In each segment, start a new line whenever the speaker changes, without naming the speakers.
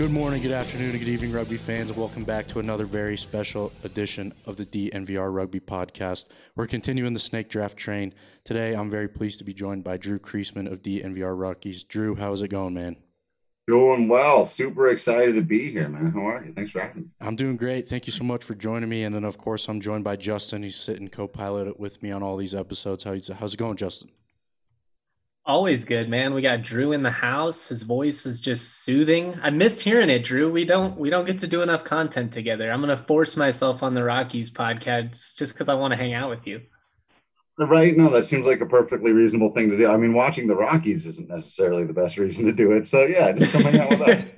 Good morning, good afternoon, and good evening, rugby fans, and welcome back to another very special edition of the DNVR Rugby Podcast. We're continuing the snake draft train. Today, I'm very pleased to be joined by Drew Creasman of DNVR Rockies. Drew, how's it going, man?
Doing well. Super excited to be here, man. How are you? Thanks for having me.
I'm doing great. Thank you so much for joining me. And then, of course, I'm joined by Justin. He's sitting co-pilot with me on all these episodes. How's it going, Justin?
Always good, man. We got Drew in the house. His voice is just soothing. I missed hearing it, Drew. We don't get to do enough content together. I'm gonna force myself on the Rockies podcast just because I want to hang out with you.
Right? No, that seems like a perfectly reasonable thing to do. I mean, watching the Rockies isn't necessarily the best reason to do it. So yeah, just come hang out with us.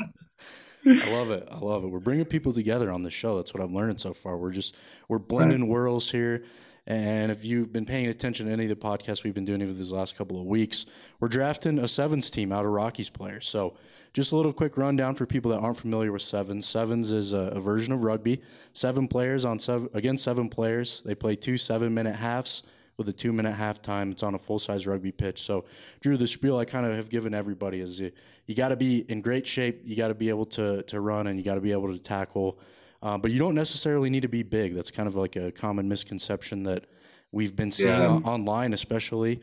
I love it. I love it. We're bringing people together on the show. That's what I'm learning so far. We're blending worlds here. And if you've been paying attention to any of the podcasts we've been doing over these last couple of weeks, we're drafting a sevens team out of Rockies players. So just a little quick rundown for people that aren't familiar with sevens. Sevens is a version of rugby. 7 players against 7 players. They play 2 7-minute halves with a 2-minute halftime. It's on a full-size rugby pitch. So, Drew, the spiel I kind of have given everybody is you got to be in great shape, you got to be able to run, and you got to be able to tackle. But you don't necessarily need to be big. That's kind of like a common misconception that we've been seeing online, especially.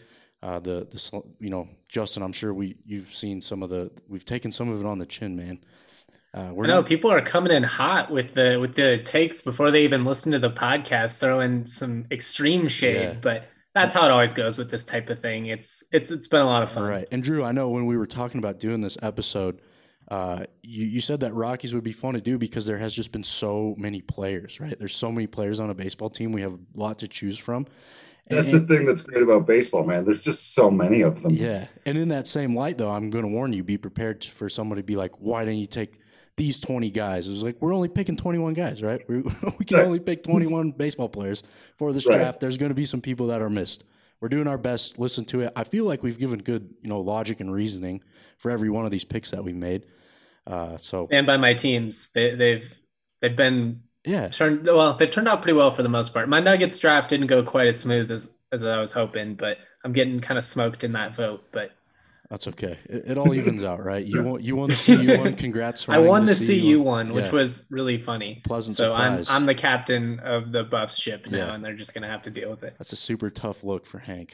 Justin, I'm sure you've seen we've taken some of it on the chin, man.
People are coming in hot with the takes before they even listen to the podcast, throwing some extreme shade, but that's how it always goes with this type of thing. It's been a lot of fun.
Right. And Drew, I know when we were talking about doing this episode, you said that Rockies would be fun to do because there has just been so many players, right? There's so many players on a baseball team. We have a lot to choose from.
That's the thing that's great about baseball, man. There's just so many of them.
Yeah. And in that same light, though, I'm going to warn you, be prepared for someone to be like, why didn't you take these 20 guys? It was like, we're only picking 21 guys, right? We can only pick 21 baseball players for this draft. There's going to be some people that are missed. We're doing our best. Listen to it. I feel like we've given good, logic and reasoning for every one of these picks that we made.
And by my teams, they've been turned out pretty well for the most part. My Nuggets draft didn't go quite as smooth as I was hoping, but I'm getting kind of smoked in that vote. But
that's okay. It all evens out, right? You won the CU one. Congrats!
I won the CU one, which was really funny.
Pleasant surprise.
I'm the captain of the Buffs ship now, and they're just gonna have to deal with it.
That's a super tough look for Hank.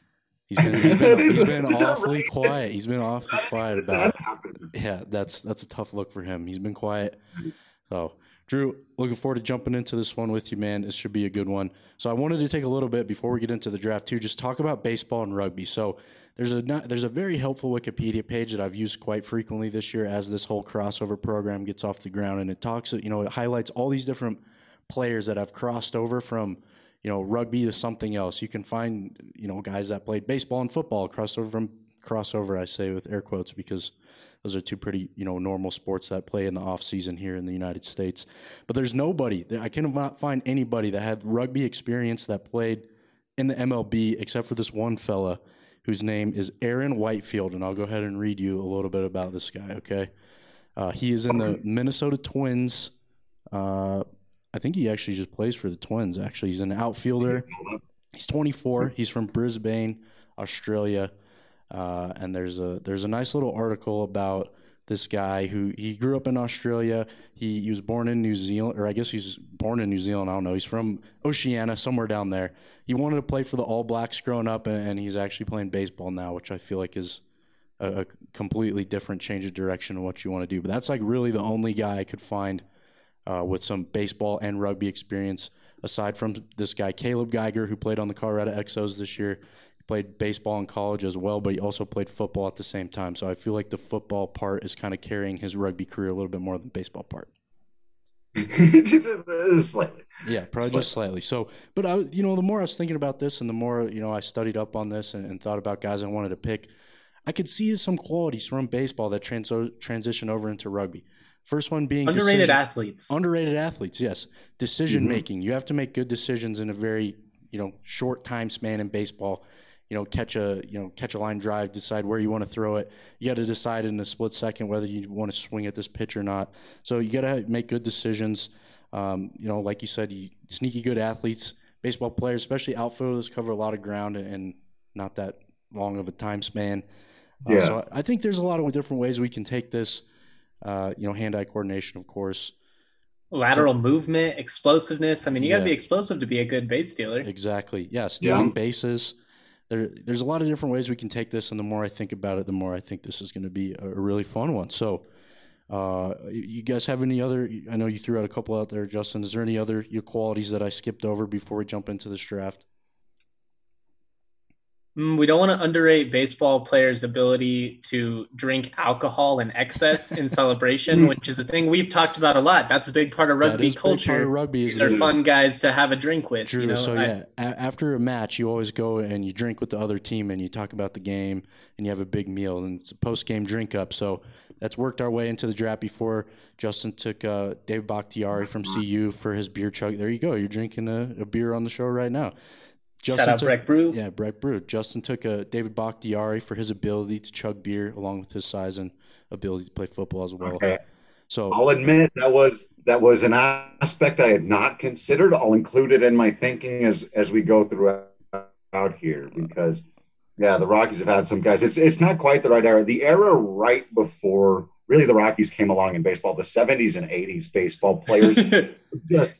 He's been awfully quiet. He's been awfully quiet about it. Yeah, that's a tough look for him. He's been quiet. So, Drew, looking forward to jumping into this one with you, man. This should be a good one. So I wanted to take a little bit before we get into the draft too, just talk about baseball and rugby. So there's a very helpful Wikipedia page that I've used quite frequently this year as this whole crossover program gets off the ground, and it highlights all these different players that have crossed over from rugby to something else. You can find, guys that played baseball and football crossover, I say with air quotes, because those are two pretty, normal sports that play in the off season here in the United States. But there's nobody, I cannot find anybody that had rugby experience that played in the MLB except for this one fella whose name is Aaron Whitefield. And I'll go ahead and read you a little bit about this guy, okay? He is in the Minnesota Twins. I think he actually just plays for the Twins, actually. He's an outfielder. He's 24. He's from Brisbane, Australia. And there's a nice little article about this guy who he grew up in Australia. He was born in New Zealand, or I guess he's born in New Zealand. I don't know. He's from Oceania, somewhere down there. He wanted to play for the All Blacks growing up, and he's actually playing baseball now, which I feel like is a completely different change of direction in what you want to do. But that's like really the only guy I could find with some baseball and rugby experience, aside from this guy, Caleb Geiger, who played on the Colorado Exos this year. He played baseball in college as well, but he also played football at the same time. So I feel like the football part is kind of carrying his rugby career a little bit more than the baseball part.
Slightly.
Yeah, probably just slightly. So, but the more I was thinking about this and the more, I studied up on this and thought about guys I wanted to pick, I could see some qualities from baseball that transition over into rugby. First one being
underrated athletes.
Underrated athletes, yes. Decision making. You have to make good decisions in a very, short time span in baseball. Catch a line drive, decide where you want to throw it. You got to decide in a split second whether you want to swing at this pitch or not. So you got to make good decisions. Like you said, sneaky good athletes, baseball players, especially outfielders, cover a lot of ground and not that long of a time span. So I think there's a lot of different ways we can take this. Hand-eye coordination, of course.
Lateral movement, explosiveness. I mean, you got to be explosive to be a good base stealer.
Exactly. Yeah, stealing bases. There's a lot of different ways we can take this, and the more I think about it, the more I think this is going to be a really fun one. So, you guys have any other? I know you threw out a couple out there, Justin. Is there any other qualities that I skipped over before we jump into this draft?
We don't want to underrate baseball players' ability to drink alcohol in excess in celebration, which is a thing we've talked about a lot. That's a big part of rugby culture.
Part of rugby.
These are fun guys to have a drink with.
True. So after a match, you always go and you drink with the other team and you talk about the game and you have a big meal and it's a post-game drink up. So that's worked our way into the draft before. Justin took David Bakhtiari from CU for his beer chug. There you go. You're drinking a beer on the show right now.
Shout out Breck Brew.
Yeah, Breck Brew. Justin took David Bakhtiari for his ability to chug beer, along with his size and ability to play football as well.
Okay.
So
I'll admit that was an aspect I had not considered. I'll include it in my thinking as we go throughout here because, the Rockies have had some guys. It's not quite the right era. The era right before really the Rockies came along in baseball, the 70s and 80s baseball players just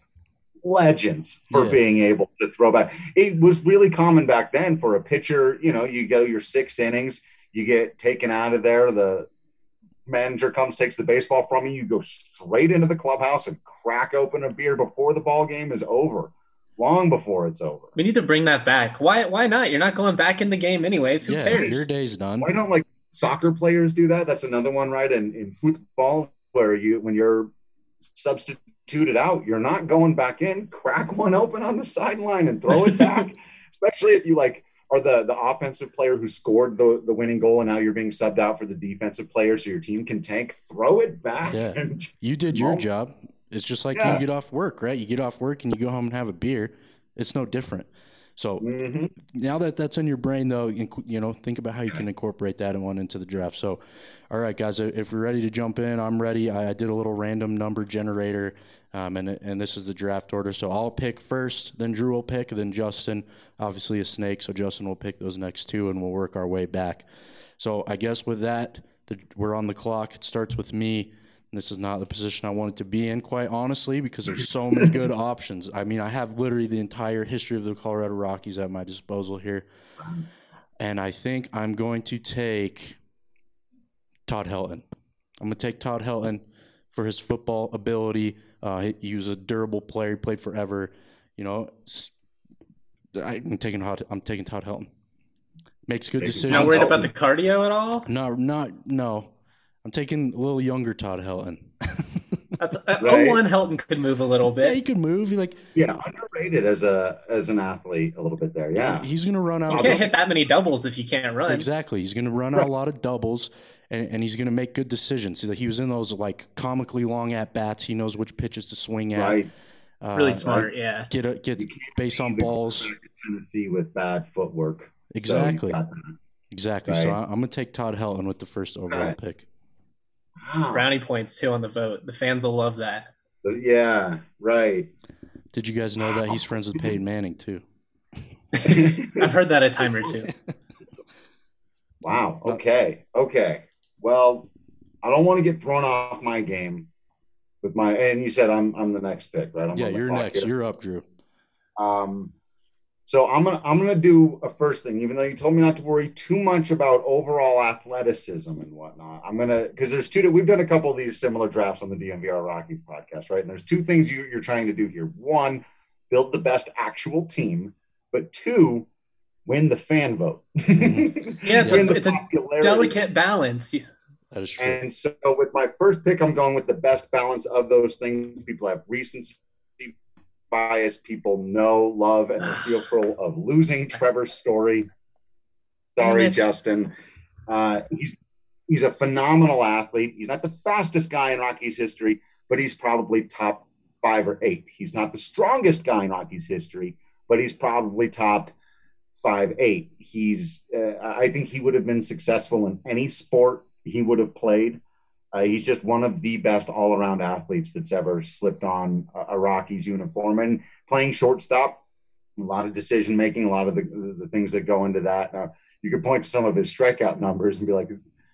legends for being able to throw back. It was really common back then for a pitcher, you go your 6 innings, you get taken out of there, the manager comes, takes the baseball from you, you go straight into the clubhouse and crack open a beer before the ball game is over, long before it's over.
We need to bring that back. Why not? You're not going back in the game anyways. Who cares?
Your day's done.
Why don't soccer players do that? That's another one, right? In football, where when you're substituted out, you're not going back in, crack one open on the sideline and throw it back, especially if you are the offensive player who scored the winning goal and now you're being subbed out for the defensive player so your team can tank. Throw it back.
You did your job. It's just like you get off work, right? You get off work and you go home and have a beer. It's no different. So now that that's in your brain, though, think about how you can incorporate that one into the draft. So, all right, guys, if we're ready to jump in, I'm ready. I did a little random number generator, and this is the draft order. So I'll pick first, then Drew will pick, then Justin, obviously a snake. So Justin will pick those next two, and we'll work our way back. So I guess with that, we're on the clock. It starts with me. This is not the position I wanted to be in, quite honestly, because there's so many good options. I mean, I have literally the entire history of the Colorado Rockies at my disposal here. And I think I'm going to take Todd Helton. I'm going to take Todd Helton for his football ability. He was a durable player. He played forever. I'm taking Todd Helton. Makes good decisions.
Not worried about the cardio at all?
No. I'm taking a little younger Todd Helton.
That's right. 01 Helton could move a little bit.
Yeah, he could move.
Underrated as an athlete a little bit there. Yeah,
he's going to run out.
You can't hit that many doubles if you can't run.
Exactly, he's going to run out a lot of doubles, and he's going to make good decisions. He was in those comically long at bats. He knows which pitches to swing at.
Right.
Really smart. Yeah.
Get base on balls.
Tennessee with bad footwork.
Exactly.
So
exactly. Right. So I'm going to take Todd Helton with the first overall pick.
Wow. Brownie points too on the vote. The fans will love that.
Yeah, right.
Did you guys know that he's friends with Peyton Manning too?
I've heard that a time or two.
Wow. Okay. Well, I don't want to get thrown off my game with and you said I'm the next pick, right?
You're next. You're up, Drew.
So I'm gonna do a first thing, even though you told me not to worry too much about overall athleticism and whatnot. Because there's we've done a couple of these similar drafts on the DNVR Rockies podcast, right? And there's two things you're trying to do here. One, build the best actual team, but two, win the fan vote.
Yeah, it's a delicate balance.
That is true.
And so with my first pick, I'm going with the best balance of those things. People have recency bias, people know, love, and are fearful of losing. Trevor Story. Sorry, Justin. He's a phenomenal athlete. He's not the fastest guy in Rockies history, but he's probably top 5 or 8. He's not the strongest guy in Rockies history, but he's probably top 5'8". I think he would have been successful in any sport he would have played. He's just one of the best all-around athletes that's ever slipped on a Rockies uniform. And playing shortstop, a lot of decision-making, a lot of the things that go into that. You could point to some of his strikeout numbers and be like,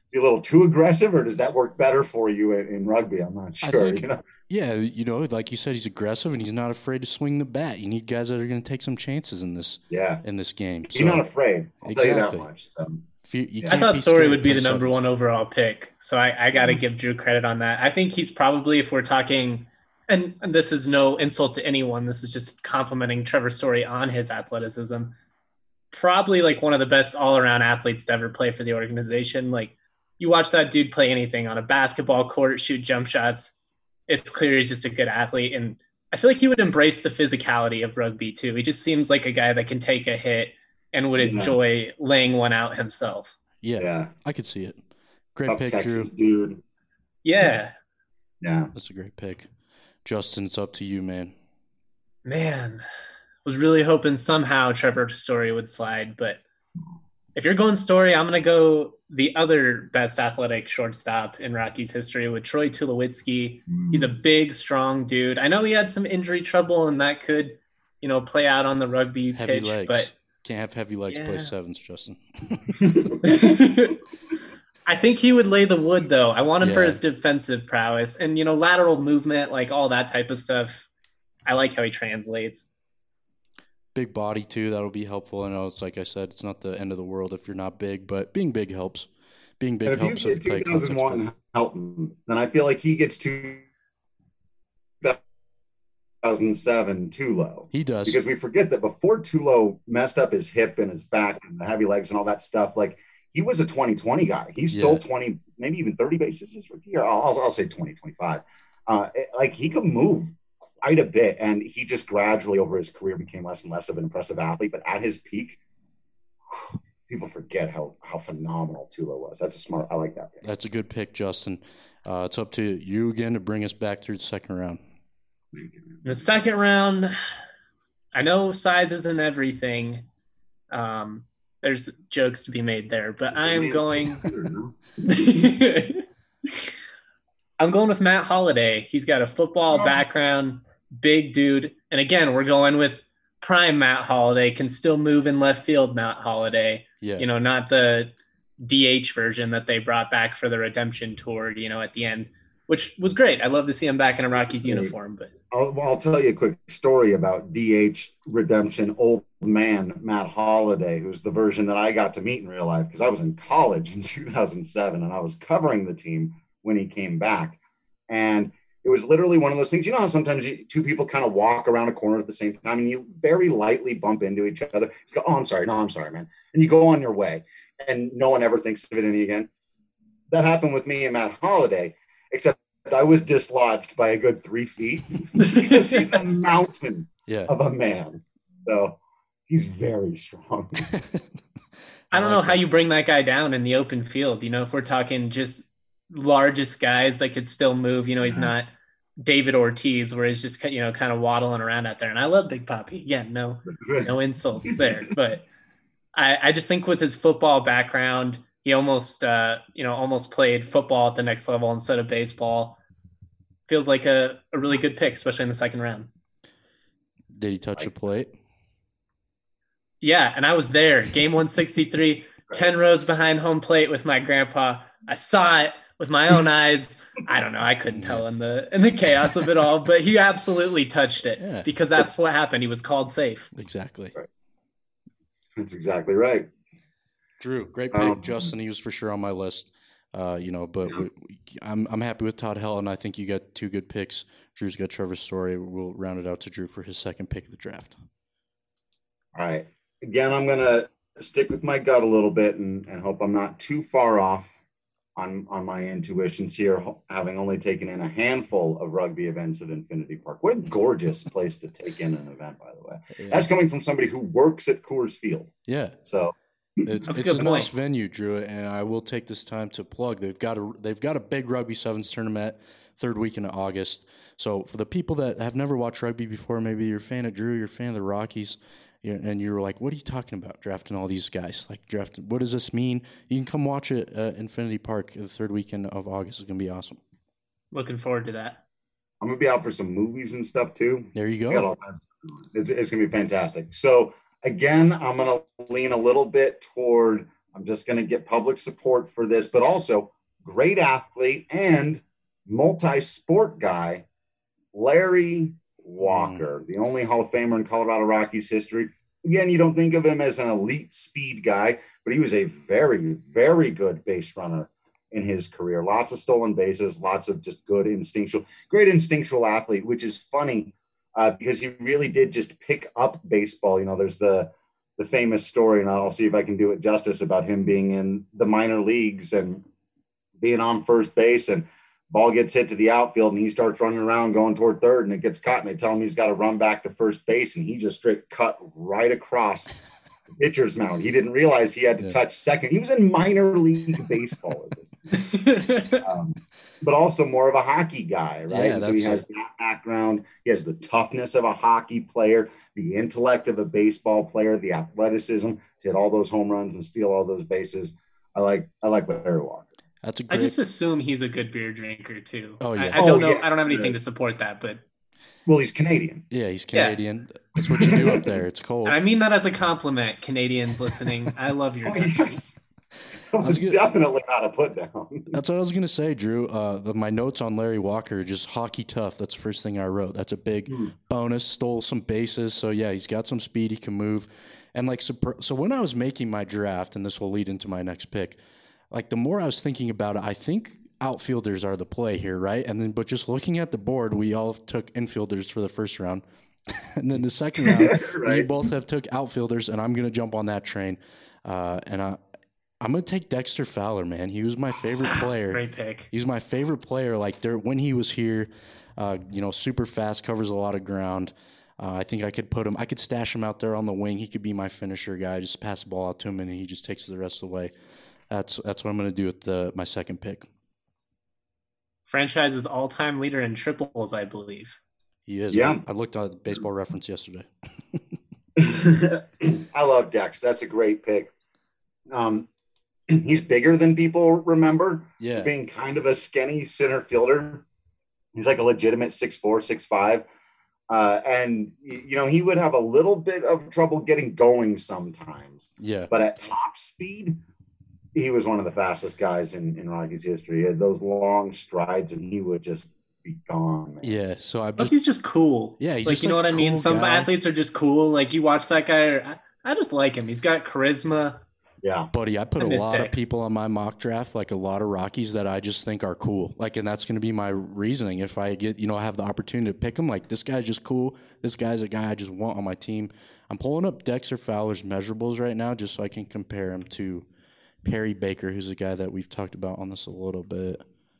he a little too aggressive, or does that work better for you in rugby? I'm not
I
sure.
think, yeah, like you said, he's aggressive and he's not afraid to swing the bat. You need guys that are going to take some chances in this
Yeah.
game.
He's not afraid. I'll tell you that much. So,
I thought Story would be the number one overall pick, so I got to give Drew credit on that. I think he's probably, if we're talking, and this is no insult to anyone, this is just complimenting Trevor Story on his athleticism, probably like one of the best all-around athletes to ever play for the organization. Like, you watch that dude play anything on a basketball court, shoot jump shots, it's clear he's just a good athlete. And I feel like he would embrace the physicality of rugby too. He just seems like a guy that can take a hit and would enjoy laying one out himself.
Yeah. I could see it. Great
Tough
pick,
Texas
Drew.
Dude.
Yeah.
That's a great pick. Justin, it's up to you, man.
Man, was really hoping somehow Trevor Story would slide, but if you're going Story, I'm going to go the other best athletic shortstop in Rockies history with Troy Tulowitzki. He's a big, strong dude. I know he had some injury trouble, and that could, play out on the rugby
heavy
pitch.
Legs.
But
can't have heavy legs play sevens, Justin.
I think he would lay the wood, though. I want him for his defensive prowess and, lateral movement, like all that type of stuff. I like how he translates.
Big body, too. That'll be helpful. I know it's like I said, it's not the end of the world if you're not big, but being big helps. Being big helps.
If you get 2001 Helton, then I feel like he gets 2007 Tulo.
He does.
Because we forget that before Tulo messed up his hip and his back and the heavy legs and all that stuff, like, he was a 20-20 guy. He stole 20, maybe even 30 bases his rookie year. I'll say 20, 25. Like, he could move quite a bit, and he just gradually over his career became less and less of an impressive athlete. But at his peak, people forget how phenomenal Tulo was. I like that pick.
That's a good pick, Justin. It's up to you again to bring us back through the second round.
The second round, I know size isn't everything. There's jokes to be made there, but I'm going with Matt Holliday. He's got a football background, big dude. And again, we're going with prime Matt Holliday, can still move in left field Matt Holliday.
Yeah.
Not the DH version that they brought back for the redemption tour, at the end, which was great. I love to see him back in a Rockies uniform. But
I'll tell you a quick story about DH redemption old man Matt Holliday, who's the version that I got to meet in real life because I was in college in 2007 and I was covering the team when he came back. And it was literally one of those things, how sometimes two people kind of walk around a corner at the same time and you very lightly bump into each other. You go, oh, I'm sorry. No, I'm sorry, man. And you go on your way and no one ever thinks of it any again. That happened with me and Matt Holliday, except I was dislodged by a good 3 feet because he's a mountain of a man. So he's very strong.
I don't know how you bring that guy down in the open field. If we're talking just largest guys that could still move, he's not David Ortiz where he's just, kind of waddling around out there. And I love Big Papi. Again, no insults there. But I just think with his football background, he almost played football at the next level instead of baseball. Feels like a really good pick, especially in the second round.
Did he touch the plate?
Yeah, and I was there. Game 163, 10 rows behind home plate with my grandpa. I saw it with my own eyes. I don't know. I couldn't tell in the chaos of it all, but he absolutely touched it because that's what happened. He was called safe.
Exactly.
Right. That's exactly right.
Drew, great pick. Justin, he was for sure on my list. But I'm happy with Todd Helton. I think you got two good picks. Drew's got Trevor Story. We'll round it out to Drew for his second pick of the draft.
All right. Again, I'm going to stick with my gut a little bit and hope I'm not too far off on my intuitions here, having only taken in a handful of rugby events at Infinity Park. What a gorgeous place to take in an event, by the way. Yeah. That's coming from somebody who works at Coors Field.
Yeah.
So
it's a nice venue, Drew, and I will take this time to plug. They've got a big rugby sevens tournament third week in August. So for the people that have never watched rugby before, maybe you're a fan of Drew, you're a fan of the Rockies, and you're like, what are you talking about, drafting all these guys? Like, what does this mean? You can come watch it at Infinity Park the third weekend of August. It's going to be awesome.
Looking forward to that.
I'm going to be out for some movies and stuff, too.
There you go.
It's going to be fantastic. So, again, I'm going to lean a little bit toward I'm just going to get public support for this, but also great athlete and multi-sport guy, Larry Walker, the only Hall of Famer in Colorado Rockies history. Again, you don't think of him as an elite speed guy, but he was a very, very good base runner in his career. Lots of stolen bases, lots of just great instinctual athlete, which is funny because he really did just pick up baseball. You know, there's the famous story, and I'll see if I can do it justice, about him being in the minor leagues and being on first base, and ball gets hit to the outfield and he starts running around going toward third, and it gets caught, and they tell him he's got to run back to first base, and he just straight cut right across the pitcher's mound. He didn't realize he had to touch second. He was in minor league baseball at this time. But also more of a hockey guy, right?
Yeah,
so he has that background. He has the toughness of a hockey player, the intellect of a baseball player, the athleticism to hit all those home runs and steal all those bases. I like Larry Walker.
That's a great...
I just assume he's a good beer drinker too.
Oh yeah.
I don't know. Yeah. I don't have anything to support that, but
well, he's Canadian.
Yeah, he's Canadian. Yeah. That's what you do up there. It's cold.
And I mean that as a compliment, Canadians listening. I love your
yes. That was definitely not a put down.
That's what I was going to say, Drew. My notes on Larry Walker are just hockey tough. That's the first thing I wrote. That's a big bonus. Stole some bases. So, yeah, he's got some speed. He can move. And, like, so when I was making my draft, and this will lead into my next pick, like, the more I was thinking about it, I think outfielders are the play here, right? But just looking at the board, we all took infielders for the first round. And then the second round, right. We both have took outfielders, and I'm going to jump on that train. I'm going to take Dexter Fowler, man. He was my favorite player.
Great pick.
He was my favorite player. Like when he was here, super fast, covers a lot of ground. I think I could stash him out there on the wing. He could be my finisher guy. Just pass the ball out to him, and he just takes it the rest of the way. That's what I'm going to do with my second pick.
Franchise's all-time leader in triples, I believe.
He is. Yeah. I looked at Baseball Reference yesterday.
I love Dex. That's a great pick. He's bigger than people remember.
Yeah.
Being kind of a skinny center fielder. He's like a legitimate 6'4", 6'5". And, he would have a little bit of trouble getting going sometimes.
Yeah.
But at top speed, he was one of the fastest guys in Rockies history. He had those long strides, and he would just be gone, man.
Yeah. So
he's just cool.
Yeah. He's
like,
just
you know what I mean? Some athletes are just cool. Like, you watch that guy, I just like him. He's got charisma.
Yeah.
Buddy, I put a lot of people on my mock draft, like a lot of Rockies that I just think are cool. Like, and that's going to be my reasoning. If I get, I have the opportunity to pick them, like, this guy's just cool. This guy's a guy I just want on my team. I'm pulling up Dexter Fowler's measurables right now just so I can compare him to Perry Baker, who's a guy that we've talked about on this a little bit.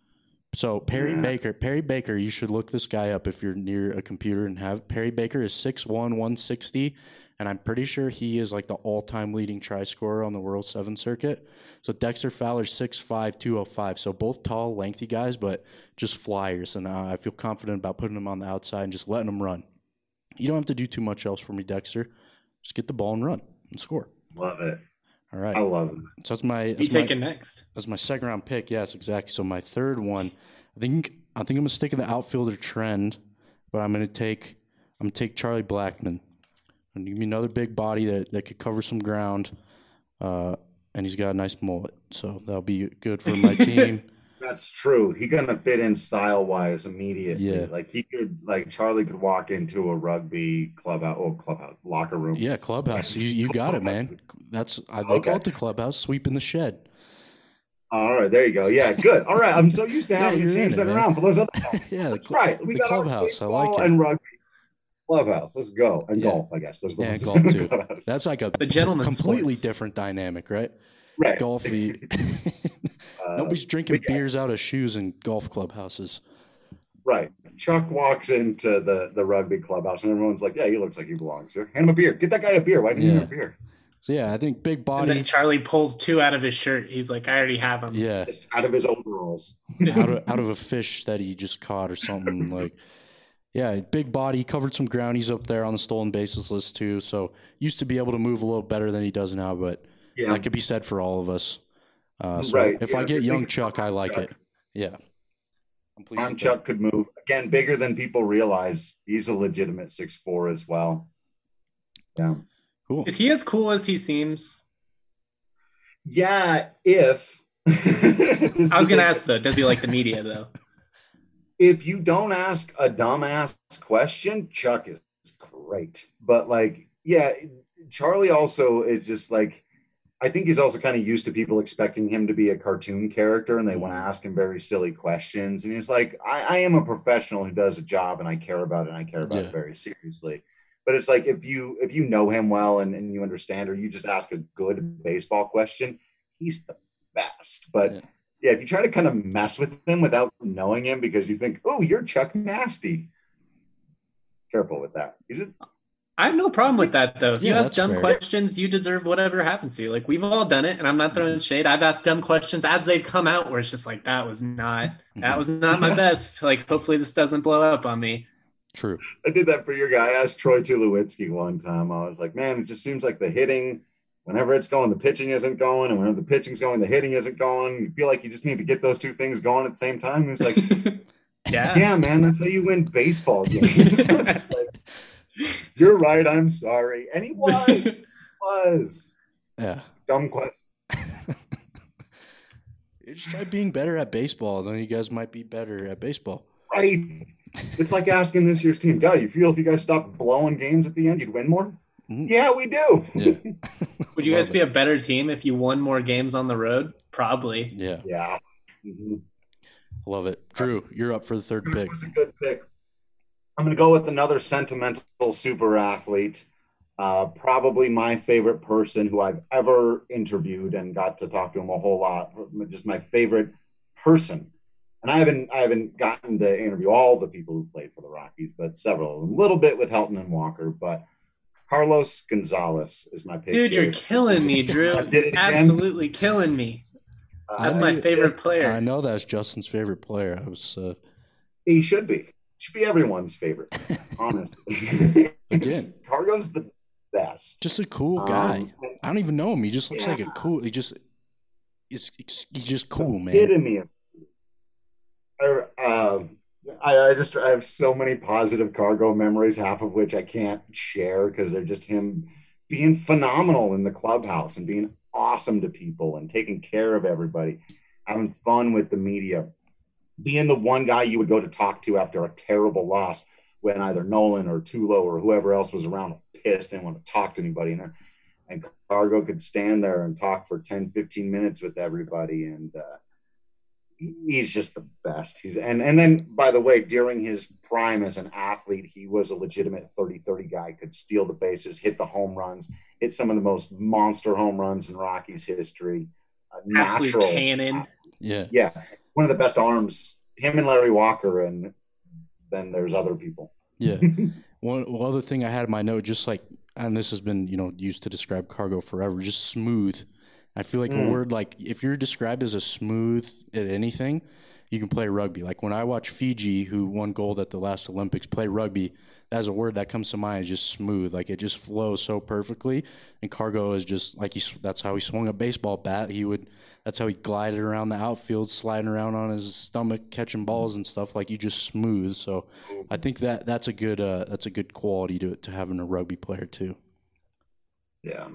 So Perry Baker, you should look this guy up if you're near a computer and have. Perry Baker is 6'1", 160, and I'm pretty sure he is like the all-time leading try scorer on the World 7 circuit. So Dexter Fowler's 6'5", 205. So both tall, lengthy guys, but just flyers. And I feel confident about putting them on the outside and just letting them run. You don't have to do too much else for me, Dexter. Just get the ball and run and score.
Love it.
All right.
I love it.
So that's my.
You taking next?
That's my second round pick. Yes, exactly. So my third one, I think I'm gonna stick in the outfielder trend, but I'm gonna take Charlie Blackmon. And give me another big body that could cover some ground, and he's got a nice mullet, so that'll be good for my team.
That's true. He's gonna fit in style wise immediately.
Yeah.
Like Charlie could walk into a rugby clubhouse locker room.
Yeah, clubhouse. You got it, man. They call it the clubhouse, sweeping the shed.
All right, there you go. Yeah, good. All right, I'm so used to having to change that around for those other.
Yeah,
that's right. We got
clubhouse. I like it.
And rugby. Clubhouse. Let's go. And golf, I guess. There's the
golf too. That's like a completely
sports.
Different dynamic, right?
Right.
Golfy. Nobody's drinking beers out of shoes in golf clubhouses.
Right. Chuck walks into the rugby clubhouse and everyone's like, yeah, he looks like he belongs here. Hand him a beer. Get that guy a beer. Why didn't you have a beer?
So, yeah, I think big body.
And then Charlie pulls two out of his shirt. He's like, I already have them.
Yeah.
Just out of his overalls.
out of a fish that he just caught or something. Like, yeah, big body, covered some ground. He's up there on the stolen bases list too. So used to be able to move a little better than he does now, but that could be said for all of us. If I get young Chuck, I like it. Yeah.
Young Chuck could move. Again, bigger than people realize. He's a legitimate 6'4" as well. Yeah.
Cool.
Is he as cool as he seems?
Yeah, if
I was gonna ask though, does he like the media though?
if you don't ask a dumbass question, Chuck is great. But like, yeah, Charlie also is just like, I think he's also kind of used to people expecting him to be a cartoon character and they want to ask him very silly questions. And he's like, I am a professional who does a job and I care about it and I care about it very seriously. But it's like if you know him well and you understand, or you just ask a good baseball question, he's the best. But yeah, if you try to kind of mess with him without knowing him because you think, oh, you're Chuck Nasty, careful with that.
I have no problem with that though. If you ask dumb questions, you deserve whatever happens to you. Like we've all done it, and I'm not throwing shade. I've asked dumb questions as they've come out where it's just like that was not my best. Like hopefully this doesn't blow up on me.
True.
I did that for your guy. I asked Troy Tulowitzki one time. I was like, man, it just seems like the hitting, whenever it's going, the pitching isn't going, and whenever the pitching's going, the hitting isn't going. You feel like you just need to get those two things going at the same time. He was like, yeah, man, that's how you win baseball games. You're right. I'm sorry. And he was.
Yeah.
Dumb question.
Just try being better at baseball, then you guys might be better at baseball.
Right. It's like asking this year's team, God, you feel if you guys stopped blowing games at the end, you'd win more? Mm-hmm. Yeah, we do.
Yeah.
Would you guys be a better team if you won more games on the road? Probably.
Yeah.
Yeah. Mm-hmm.
Love it. Drew, you're up for the third pick.
That was a good pick. I'm going to go with another sentimental super athlete. Probably my favorite person who I've ever interviewed and got to talk to him a whole lot. Just my favorite person. And I haven't gotten to interview all the people who played for the Rockies, but several, a little bit with Helton and Walker. But Carlos Gonzalez is my pick.
Dude, you're killing me, Drew. Absolutely killing me. That's my favorite player.
I know that's Justin's favorite player.
He should be. Should be everyone's favorite, honestly.
Again,
Cargo's the best.
Just a cool guy. I don't even know him. He just looks like a cool. He's just cool, man.
Epitome of I have so many positive Cargo memories, half of which I can't share because they're just him being phenomenal in the clubhouse and being awesome to people and taking care of everybody, having fun with the media, being the one guy you would go to talk to after a terrible loss when either Nolan or Tulo or whoever else was around pissed and didn't want to talk to anybody. And Cargo could stand there and talk for 10, 15 minutes with everybody. And he's just the best. And then, by the way, during his prime as an athlete, he was a legitimate 30-30 guy, could steal the bases, hit the home runs, hit some of the most monster home runs in Rockies history. Natural
cannon.
Yeah. One of the best arms, him and Larry Walker, and then there's other people.
Yeah. One other thing I had in my note, just like, and this has been, used to describe Cargo forever, just smooth. I feel like a word like if you're described as a smooth at anything, you can play rugby. Like when I watch Fiji, who won gold at the last Olympics, play rugby, that's a word that comes to mind, is just smooth. Like it just flows so perfectly. And Cargo is just like that's how he swung a baseball bat. That's how he glided around the outfield, sliding around on his stomach, catching balls and stuff. Like you just smooth. So I think that's a good quality to have in a rugby player too.
Yeah.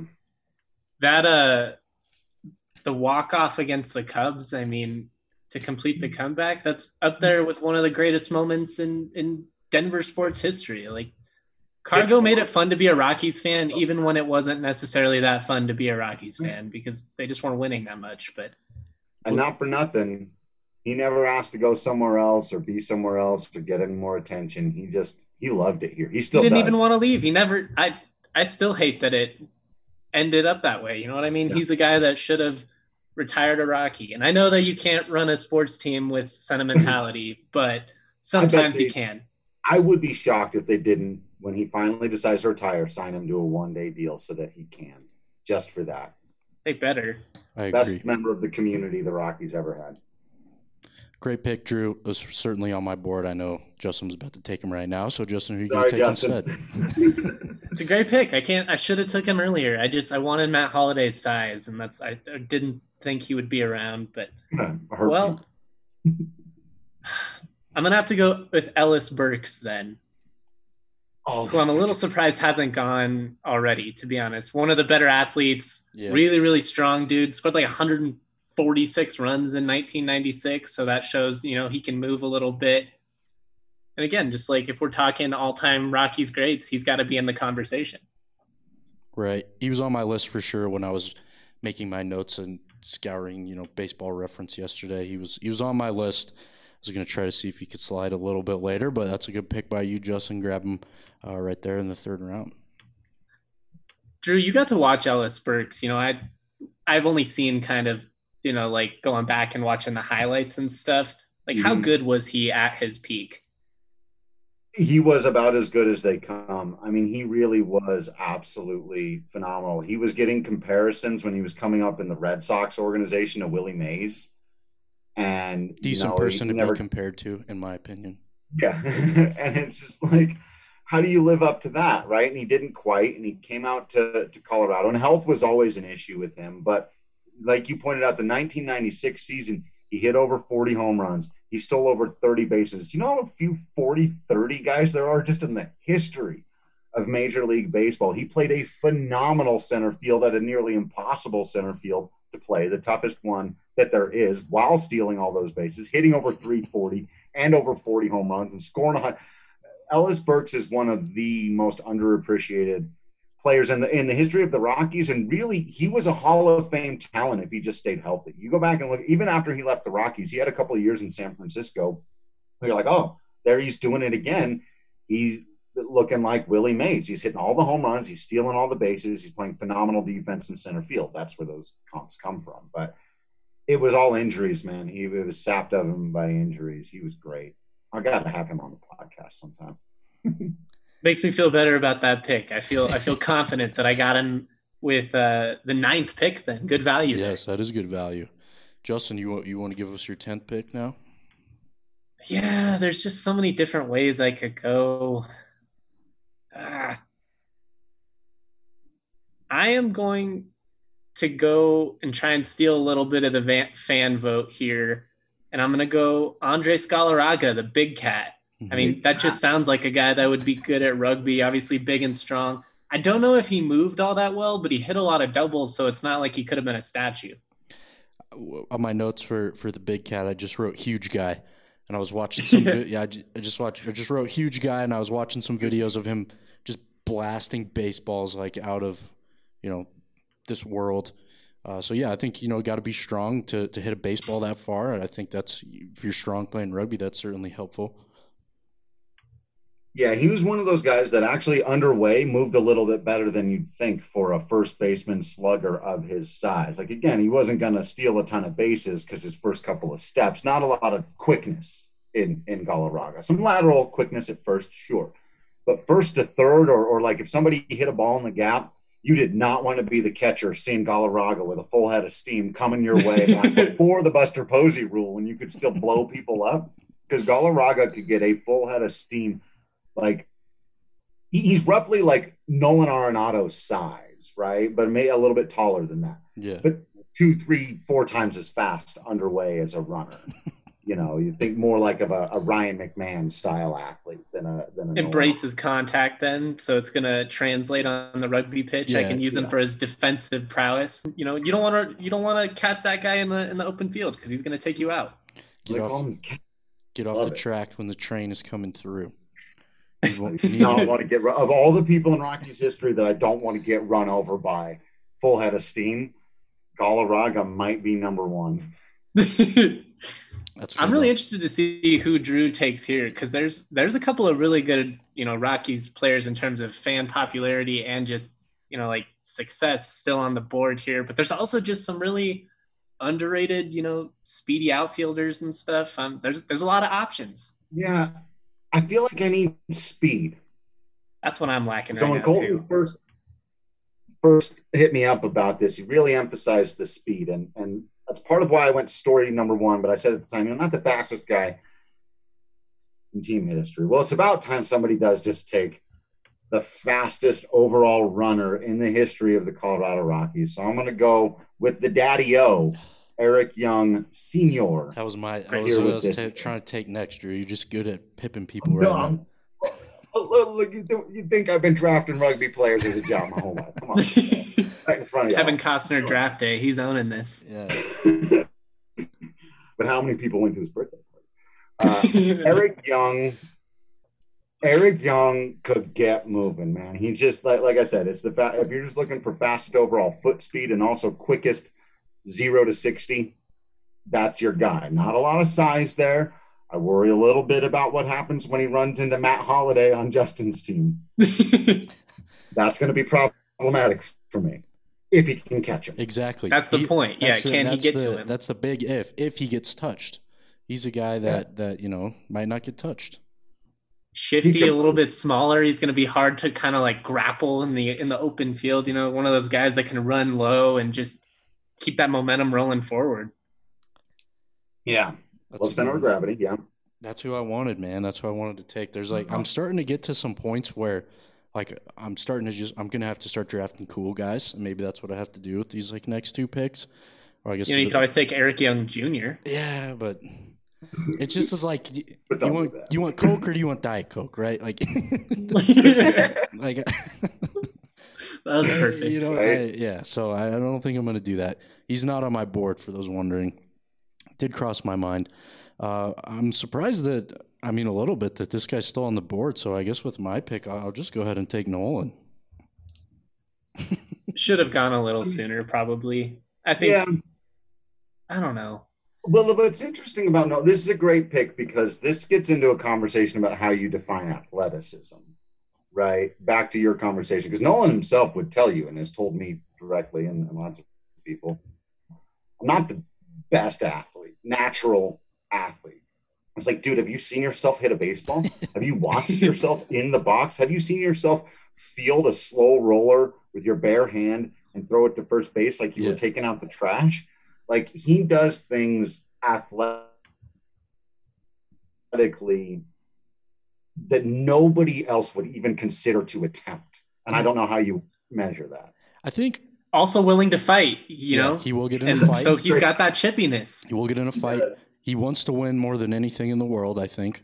The walk-off against the Cubs, I mean, to complete the comeback, that's up there with one of the greatest moments in Denver sports history. Like, Cargo made it fun to be a Rockies fan, even when it wasn't necessarily that fun to be a Rockies fan, because they just weren't winning that much.
And not for nothing, he never asked to go somewhere else or be somewhere else to get any more attention. He loved it here. He didn't
even want to leave. I still hate that it ended up that way. You know what I mean? Yeah. He's a guy that should have retired a Rocky. And I know that you can't run a sports team with sentimentality, but sometimes you can.
I would be shocked if they didn't, when he finally decides to retire, sign him to a one-day deal so that he can, just for that.
They better.
Best member of the community the Rockies ever had.
Great pick, Drew. It was certainly on my board. I know Justin's about to take him right now. So, Justin, who are you going to take instead?
It's a great pick. I should have took him earlier. I wanted Matt Holliday's size, and I didn't think he would be around. But, well, I'm going to have to go with Ellis Burks then. who I'm a little surprised hasn't gone already, to be honest. One of the better athletes, really, really strong dude, scored like 146 runs in 1996. So that shows, he can move a little bit. And again, just like if we're talking all-time Rockies greats, he's got to be in the conversation.
Right. He was on my list for sure when I was making my notes and scouring, Baseball Reference yesterday. He was on my list. I was going to try to see if he could slide a little bit later, but that's a good pick by you, Justin. Grab him right there in the third round.
Drew, you got to watch Ellis Burks. I've only seen kind of, like going back and watching the highlights and stuff. Like, how good was he at his peak?
He was about as good as they come. I mean, he really was absolutely phenomenal. He was getting comparisons when he was coming up in the Red Sox organization to Willie Mays. And
decent person to be compared to, in my opinion.
Yeah. And it's just like, how do you live up to that, right? And he didn't quite, and he came out to Colorado, and health was always an issue with him. But like you pointed out, the 1996 season, he hit over 40 home runs. He stole over 30 bases. Do you know how few 40-30 guys there are just in the history of Major League Baseball? He played a phenomenal center field at a nearly impossible center field to play, the toughest one that there is, while stealing all those bases, hitting over 340 and over 40 home runs and scoring Ellis Burks is one of the most underappreciated players in the history of the Rockies, and really he was a Hall of Fame talent if he just stayed healthy. You go back and look, even after he left the Rockies, he had a couple of years in San Francisco. You're like, oh, there he's doing it again. He's looking like Willie Mays. He's hitting all the home runs. He's stealing all the bases. He's playing phenomenal defense in center field. That's where those comps come from. But it was all injuries, man. He was sapped of him by injuries. He was great. I got to have him on the podcast sometime.
Makes me feel better about that pick. I feel confident that I got him with the 9th pick then. Good value.
Yes, that is good value. Justin, you want to give us your 10th pick now?
Yeah, there's just so many different ways I could go. I am going to go and try and steal a little bit of the fan vote here. And I'm going to go Andres Galarraga, the big cat. I mean, that just sounds like a guy that would be good at rugby, obviously big and strong. I don't know if he moved all that well, but he hit a lot of doubles, so it's not like he could have been a statue.
On my notes for the big cat, I just wrote huge guy. And I was watching some I just wrote huge guy, and I was watching some videos of him just blasting baseballs like out of, this world. So yeah, I think, got to be strong to hit a baseball that far. And I think that's, if you're strong playing rugby, that's certainly helpful.
Yeah, he was one of those guys that actually underway moved a little bit better than you'd think for a first baseman slugger of his size. Like, again, he wasn't going to steal a ton of bases because his first couple of steps, not a lot of quickness in Galarraga. Some lateral quickness at first, sure. But first to third, or like if somebody hit a ball in the gap, you did not want to be the catcher seeing Galarraga with a full head of steam coming your way back before the Buster Posey rule when you could still blow people up. Because Galarraga could get a full head of steam. Like, he's roughly like Nolan Arenado's size, right? But maybe a little bit taller than that.
Yeah.
But 2, 3, 4 times as fast underway as a runner. You think more like of a Ryan McMahon style athlete than a
embraces contact then, so it's gonna translate on the rugby pitch. I can use him for his defensive prowess. You don't want to catch that guy in the open field because he's gonna take you out.
Get off the track when the train is coming through.
I want to get of all the people in Rockies history that I don't want to get run over by full head of steam. Galarraga might be number one.
I'm really interested to see who Drew takes here because there's a couple of really good Rockies players in terms of fan popularity and just like success still on the board here. But there's also just some really underrated speedy outfielders and stuff. There's a lot of options.
Yeah. I feel like I need speed.
That's what I'm lacking.
So when Colton first hit me up about this, he really emphasized the speed, and that's part of why I went story number 1. But I said at the time, not the fastest guy in team history. Well, it's about time somebody does just take the fastest overall runner in the history of the Colorado Rockies. So I'm going to go with the Daddy-O, Eric Young Sr.
That was I was trying to take next, Drew. You're just good at pipping people right now.
Look, you think I've been drafting rugby players as a job my whole life? Come on, right in front of you.
Kevin Costner draft day. He's owning this.
Yeah.
But how many people went to his birthday party? Eric Young could get moving, man. He's just like I said, it's if you're just looking for fastest overall foot speed and also quickest 0 to 60, that's your guy. Not a lot of size there. I worry a little bit about what happens when he runs into Matt Holliday on Justin's team. That's going to be problematic for me if he can catch him.
Exactly.
That's the point. Yeah, can he get to him?
That's the big if he gets touched. He's a guy that might not get touched.
Shifty, a little bit smaller. He's going to be hard to kind of like grapple in the open field. One of those guys that can run low and just keep that momentum rolling forward.
Yeah. Low center of gravity, yeah.
That's who I wanted, man. That's who I wanted to take. There's I'm starting to get to some points where I'm going to have to start drafting cool guys. And maybe that's what I have to do with these next two picks. Or I guess
you could always take Eric Young Jr.
Yeah, but it just is you want Coke or do you want Diet Coke, right?
That was perfect.
So I don't think I'm going to do that. He's not on my board for those wondering. Did cross my mind. I'm surprised that, a little bit that this guy's still on the board. So I guess with my pick, I'll just go ahead and take Nolan.
Should have gone a little sooner, probably. I think. Yeah. I don't know.
Well, what's interesting about Nolan, this is a great pick because this gets into a conversation about how you define athleticism, right? Back to your conversation, because Nolan himself would tell you and has told me directly and lots of people, I'm not the best athlete, natural athlete. I was like, dude, have you seen yourself hit a baseball? Have you watched yourself in the box? Have you seen yourself field a slow roller with your bare hand and throw it to first base like you were taking out the trash? Like, he does things athletically that nobody else would even consider to attempt. And I don't know how you measure that.
I think
also willing to fight, know.
He will get in a fight.
So he's got that chippiness.
He will get in a fight. Yeah. He wants to win more than anything in the world, I think.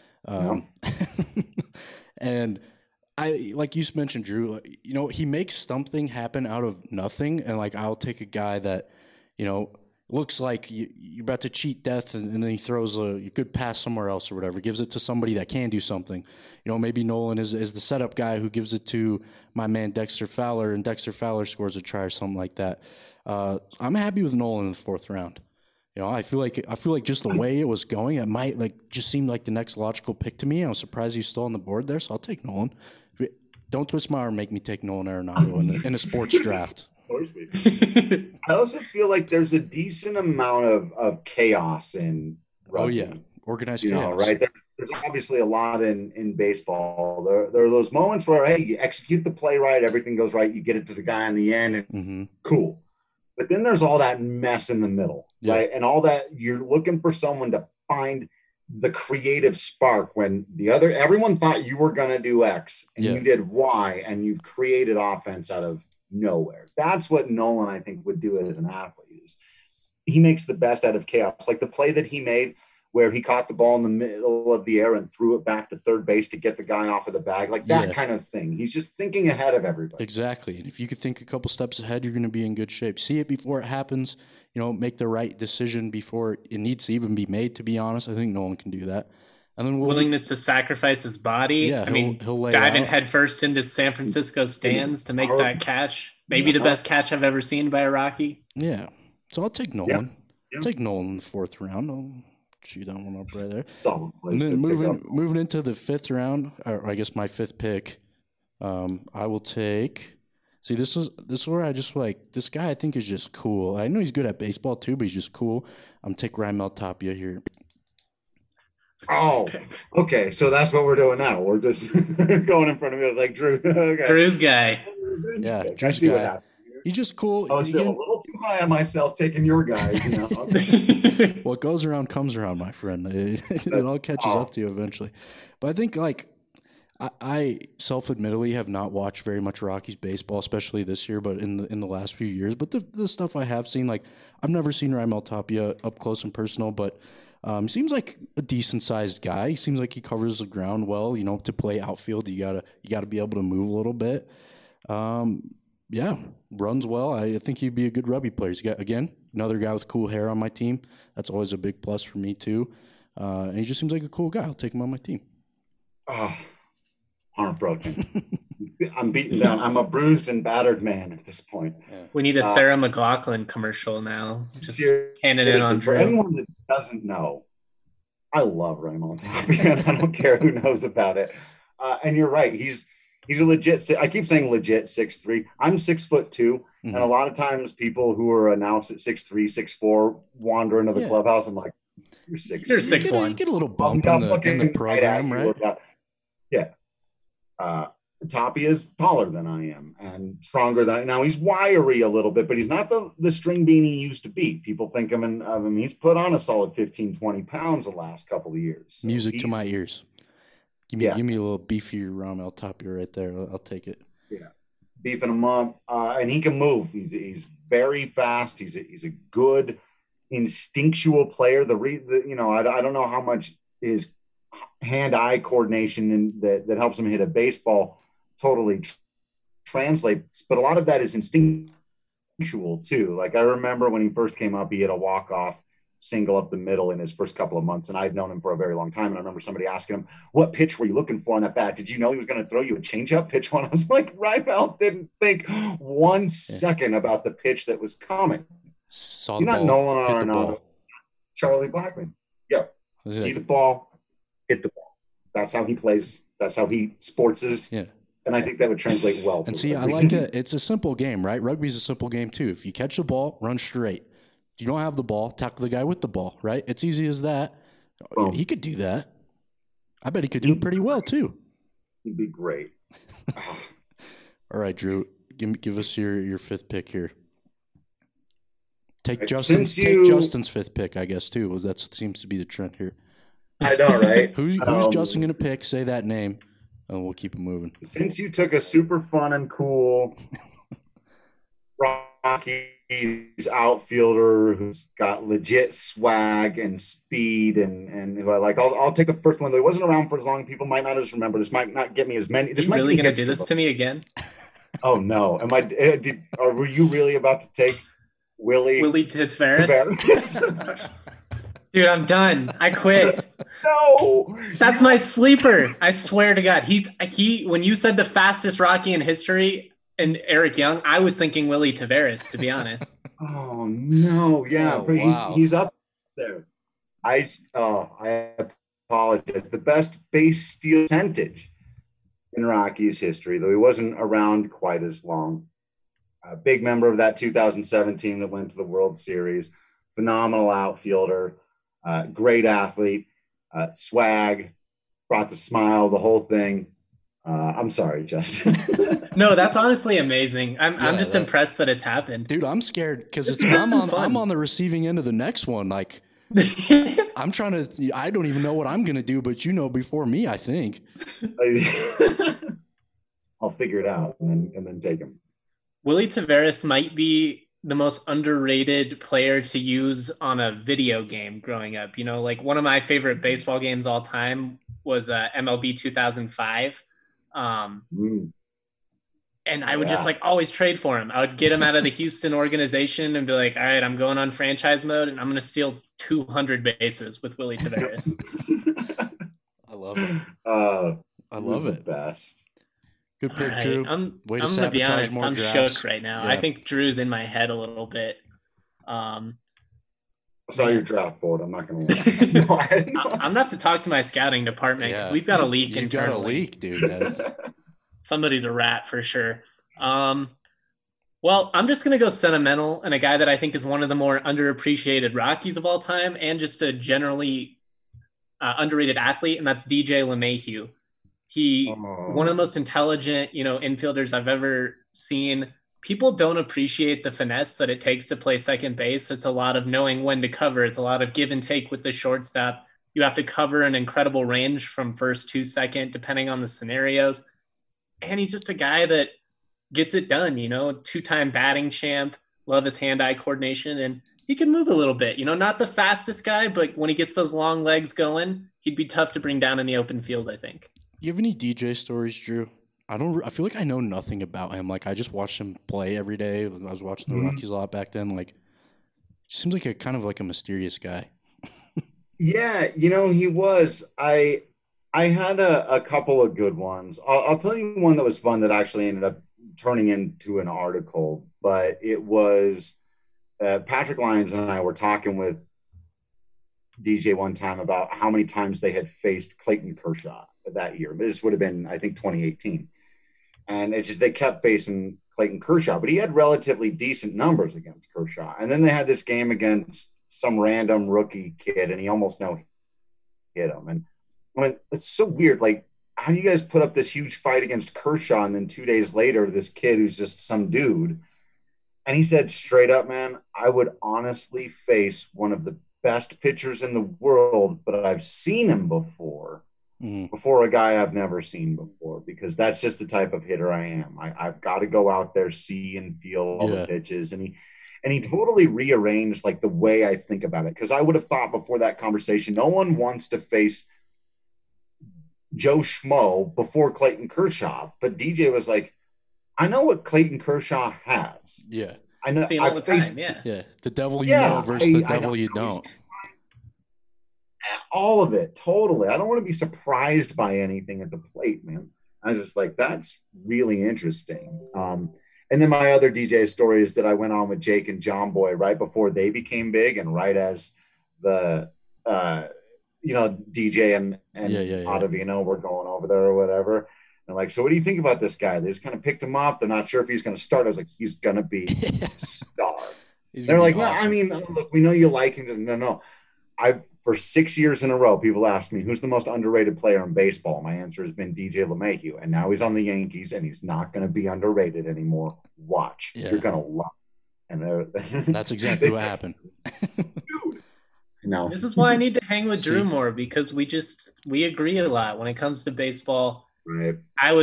And like you mentioned, Drew, he makes something happen out of nothing. And I'll take a guy that, looks like you're about to cheat death and then he throws a good pass somewhere else or whatever, gives it to somebody that can do something. Maybe Nolan is the setup guy who gives it to my man Dexter Fowler, and Dexter Fowler scores a try or something like that. I'm happy with Nolan in the fourth round. I feel like just the way it was going, it might just seem like the next logical pick to me. I was surprised he's still on the board there, so I'll take Nolan. Don't twist my arm, make me take Nolan Arenado in a sports draft.
I also feel like there's a decent amount of chaos in rugby.
Oh, yeah. Organized chaos.
Right? There's obviously a lot in baseball. There are those moments where, hey, you execute the play right, everything goes right, you get it to the guy in the end, and cool. But then there's all that mess in the middle, right? And all that, you're looking for someone to find the creative spark when everyone thought you were going to do X and you did Y, and you've created offense out of nowhere. That's what Nolan, I think, would do as an athlete. Is he makes the best out of chaos. Like the play that he made where he caught the ball in the middle of the air and threw it back to third base to get the guy off of the bag, like that kind of thing. He's just thinking ahead of everybody.
Exactly. And if you could think a couple steps ahead, you're going to be in good shape. See it before it happens, make the right decision before it needs to even be made, to be honest. I think Nolan can do that. And then
willingness to sacrifice his body.
Yeah, he'll lay
diving headfirst into San Francisco stands to make that catch. Maybe the best catch I've ever seen by a Rocky.
Yeah. So I'll take Nolan. I'll take Nolan in the fourth round. I'll chew that one up right there.
Solid place.
And then moving into the fifth round, or I guess my fifth pick, I will take. See, this is where I just this guy. I think is just cool. I know he's good at baseball too, but he's just cool. I'm take Raimel Tapia here.
Oh, okay. So that's what we're doing now. We're just going in front of me. I was like, Drew. Okay.
Drew's guy.
Yeah, I see what happened.
He's just cool.
I was feeling a little too high on myself taking your guys. Okay.
What goes around comes around, my friend. It all catches up to you eventually. But I think I self-admittedly have not watched very much Rockies baseball, especially this year, but in the last few years. But the stuff I have seen, I've never seen Raimel Tapia up close and personal, but Seems like a decent sized guy. He seems like he covers the ground well. You know, to play outfield, you gotta be able to move a little bit. Yeah, runs well. I think he'd be a good rugby player. He's got, again, another guy with cool hair on my team. That's always a big plus for me too. And he just seems like a cool guy. I'll take him on my team.
Oh, heartbroken. I'm beaten down. I'm a bruised and battered man at this point.
We need a Sarah McLachlan commercial now. Just handing it on
For
Drew.
anyone that doesn't know, I love Raymond Tapia. I don't care who knows about it. And you're right. He's a legit. I keep saying legit 6'3". I'm 6'2", and a lot of times people who are announced at 6'3", 6'4", wander into the clubhouse. I'm like, you're 6'1".
You're 6'1".
You get a little bump in the program, right?
Yeah. Tapia is taller than I am and stronger than now. He's wiry a little bit, but he's not the string bean he used to be. People think of him. He's put on a solid 15, 20 pounds the last couple of years. So
music to my ears. Give me a little beefier Ramel Tapia right there. I'll take it.
Yeah, beefing him up, and he can move. He's very fast. He's a good instinctual player. I don't know how much his hand-eye coordination that helps him hit a baseball totally translates, but a lot of that is instinctual too. Like I remember when he first came up, he had a walk-off single up the middle in his first couple of months, and I'd known him for a very long time. And I remember somebody asking him, "What pitch were you looking for on that bat? Did you know he was going to throw you a changeup pitch one?" I was like, Raimel didn't think 1 second about the pitch that was coming.
Saw
You're
the
not
ball,
Nolan Arenado, Charlie Blackmon. Yep. See the ball, hit the ball. That's how he plays. That's how he sportses.
Yeah.
And I think that would translate well.
And see, I like it. It's a simple game, right? Rugby's a simple game too. If you catch the ball, run straight. If you don't have the ball, tackle the guy with the ball, right? It's easy as that. Boom. He could do that. I bet he could do it pretty well too.
He'd be great.
All right, Drew, give us your fifth pick here. Take Justin's fifth pick, I guess, too. That seems to be the trend here.
I know, right?
Who's Justin going to pick? Say that name, and we'll keep it moving.
Since you took a super fun and cool Rockies outfielder who's got legit swag and speed and who I like, I'll take the first one. Though he wasn't around for as long. People might not just remember. This might not get me as many. This might
really going to do this to me again?
Oh no! Were you really about to take Willie
Taveras? Dude, I'm done. I quit.
No,
that's my sleeper. I swear to God. He. When you said the fastest Rocky in history and Eric Young, I was thinking Willie Taveras, to be honest.
Oh no, yeah, wow. He's up there. I apologize. The best base steal percentage in Rockies history, though he wasn't around quite as long. A big member of that 2007 team that went to the World Series. Phenomenal outfielder. Great athlete, swag, brought the smile, the whole thing. I'm sorry, Justin.
No, that's honestly amazing. I'm just impressed that it's happened.
Dude, I'm scared because I'm on the receiving end of the next one. Like, I don't even know what I'm going to do, but you know before me, I think.
I'll figure it out and then take him.
Willie Taveras might be the most underrated player to use on a video game growing up. You know, like one of my favorite baseball games all time was MLB 2005. And I would just always trade for him. I would get him out of the Houston organization and be like, all right, I'm going on franchise mode and I'm going to steal 200 bases with Willie Taveras.
I love it. I love it.
The best.
Good pick, right. Drew.
I'm going to be honest. I'm shook right now. Yeah. I think Drew's in my head a little bit.
I saw your draft board. I'm not going to lie.
I'm going to have to talk to my scouting department because we've got a leak internally.
Got a leak, dude.
Somebody's a rat for sure. Well, I'm just going to go sentimental and a guy that I think is one of the more underappreciated Rockies of all time and just a generally underrated athlete, and that's DJ LeMahieu. One of the most intelligent, infielders I've ever seen. People don't appreciate the finesse that it takes to play second base. It's a lot of knowing when to cover. It's a lot of give and take with the shortstop. You have to cover an incredible range from first to second, depending on the scenarios. And he's just a guy that gets it done, 2-time batting champ. Love his hand-eye coordination. And he can move a little bit. Not the fastest guy, but when he gets those long legs going, he'd be tough to bring down in the open field, I think.
You have any DJ stories, Drew? I feel like I know nothing about him. Like, I just watched him play every day. I was watching the Rockies a lot back then. Like, he seems like a kind of like a mysterious guy.
Yeah, he was. I had a couple of good ones. I'll tell you one that was fun that actually ended up turning into an article, but it was Patrick Lyons and I were talking with DJ one time about how many times they had faced Clayton Kershaw that year. This would have been, I think, 2018. And it's just they kept facing Clayton Kershaw, but he had relatively decent numbers against Kershaw. And then they had this game against some random rookie kid, and he almost no hit him. And I mean, it's so weird. Like, how do you guys put up this huge fight against Kershaw, and then 2 days later, this kid who's just some dude? And he said straight up, man, I would honestly face one of the best pitchers in the world, but I've seen him before a guy I've never seen before, because that's just the type of hitter I am. I've got to go out there, see and feel all the pitches. And he totally rearranged like the way I think about it. Because I would have thought before that conversation, no one wants to face Joe Schmo before Clayton Kershaw. But DJ was like, I know what Clayton Kershaw has.
Yeah.
I know. I faced,
yeah. The devil you know versus the devil you don't.
All of it, totally. I don't want to be surprised by anything at the plate, man. I was just like, that's really interesting. And then my other DJ story is that I went on with Jake and John Boy right before they became big, and right as the DJ and Ottavino were going over there or whatever. And like, so what do you think about this guy? They just kind of picked him up. They're not sure if he's going to start. I was like, he's going to be a star. They're like, awesome. No, I mean, look, we know you like him. No. For 6 years in a row, people asked me, who's the most underrated player in baseball? My answer has been DJ LeMahieu. And now he's on the Yankees, and he's not going to be underrated anymore. Watch. Yeah. You're going to love it. And
that's exactly what happened.
Dude. No.
This is why I need to hang with Drew more, because we agree a lot when it comes to baseball.
Right.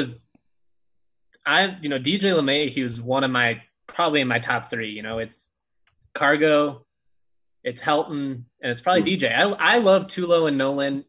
DJ LeMahieu is one of probably in my top three. It's Cargo, it's Helton, and it's probably DJ. I love Tulo and Nolan.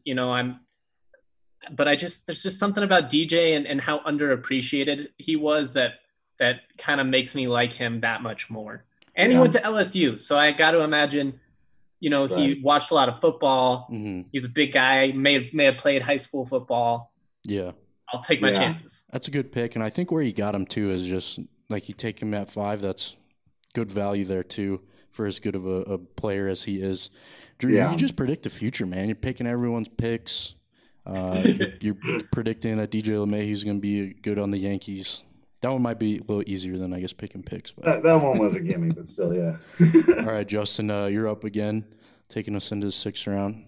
But there's just something about DJ and how underappreciated he was that kind of makes me like him that much more. And he went to LSU, so I got to imagine, he watched a lot of football. Mm-hmm. He's a big guy. May have played high school football.
Yeah.
I'll take my chances.
That's a good pick. And I think where you got him, too, is just like you take him at 5. That's good value there, too, for as good of a player as he is. Drew, you just predict the future, man. You're picking everyone's picks. You're predicting that DJ LeMahieu is going to be good on the Yankees. That one might be a little easier than, I guess, picking picks. But.
That one was a gimme, but still, yeah.
All right, Justin, you're up again, taking us into the 6th round.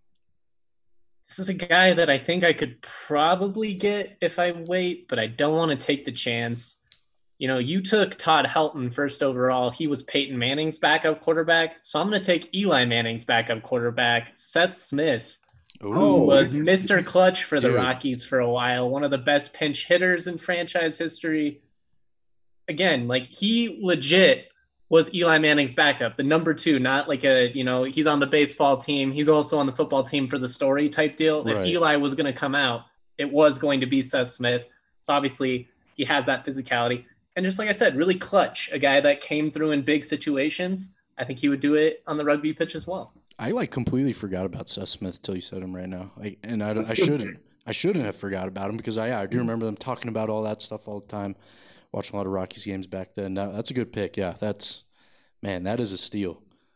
This is a guy that I think I could probably get if I wait, but I don't want to take the chance. You took Todd Helton first overall. He was Peyton Manning's backup quarterback. So I'm going to take Eli Manning's backup quarterback, Seth Smith, who was Mr. Clutch for the Rockies for a while, one of the best pinch hitters in franchise history. Again, like he legit was Eli Manning's backup, the number 2, not like he's on the baseball team. He's also on the football team for the story type deal. Right. If Eli was going to come out, it was going to be Seth Smith. So obviously he has that physicality. And just like I said, really clutch, a guy that came through in big situations. I think he would do it on the rugby pitch as well.
I completely forgot about Seth Smith till you said him right now. I shouldn't have forgot about him, because I do remember them talking about all that stuff all the time. Watching a lot of Rockies games back then. That's a good pick. Yeah, that is a steal.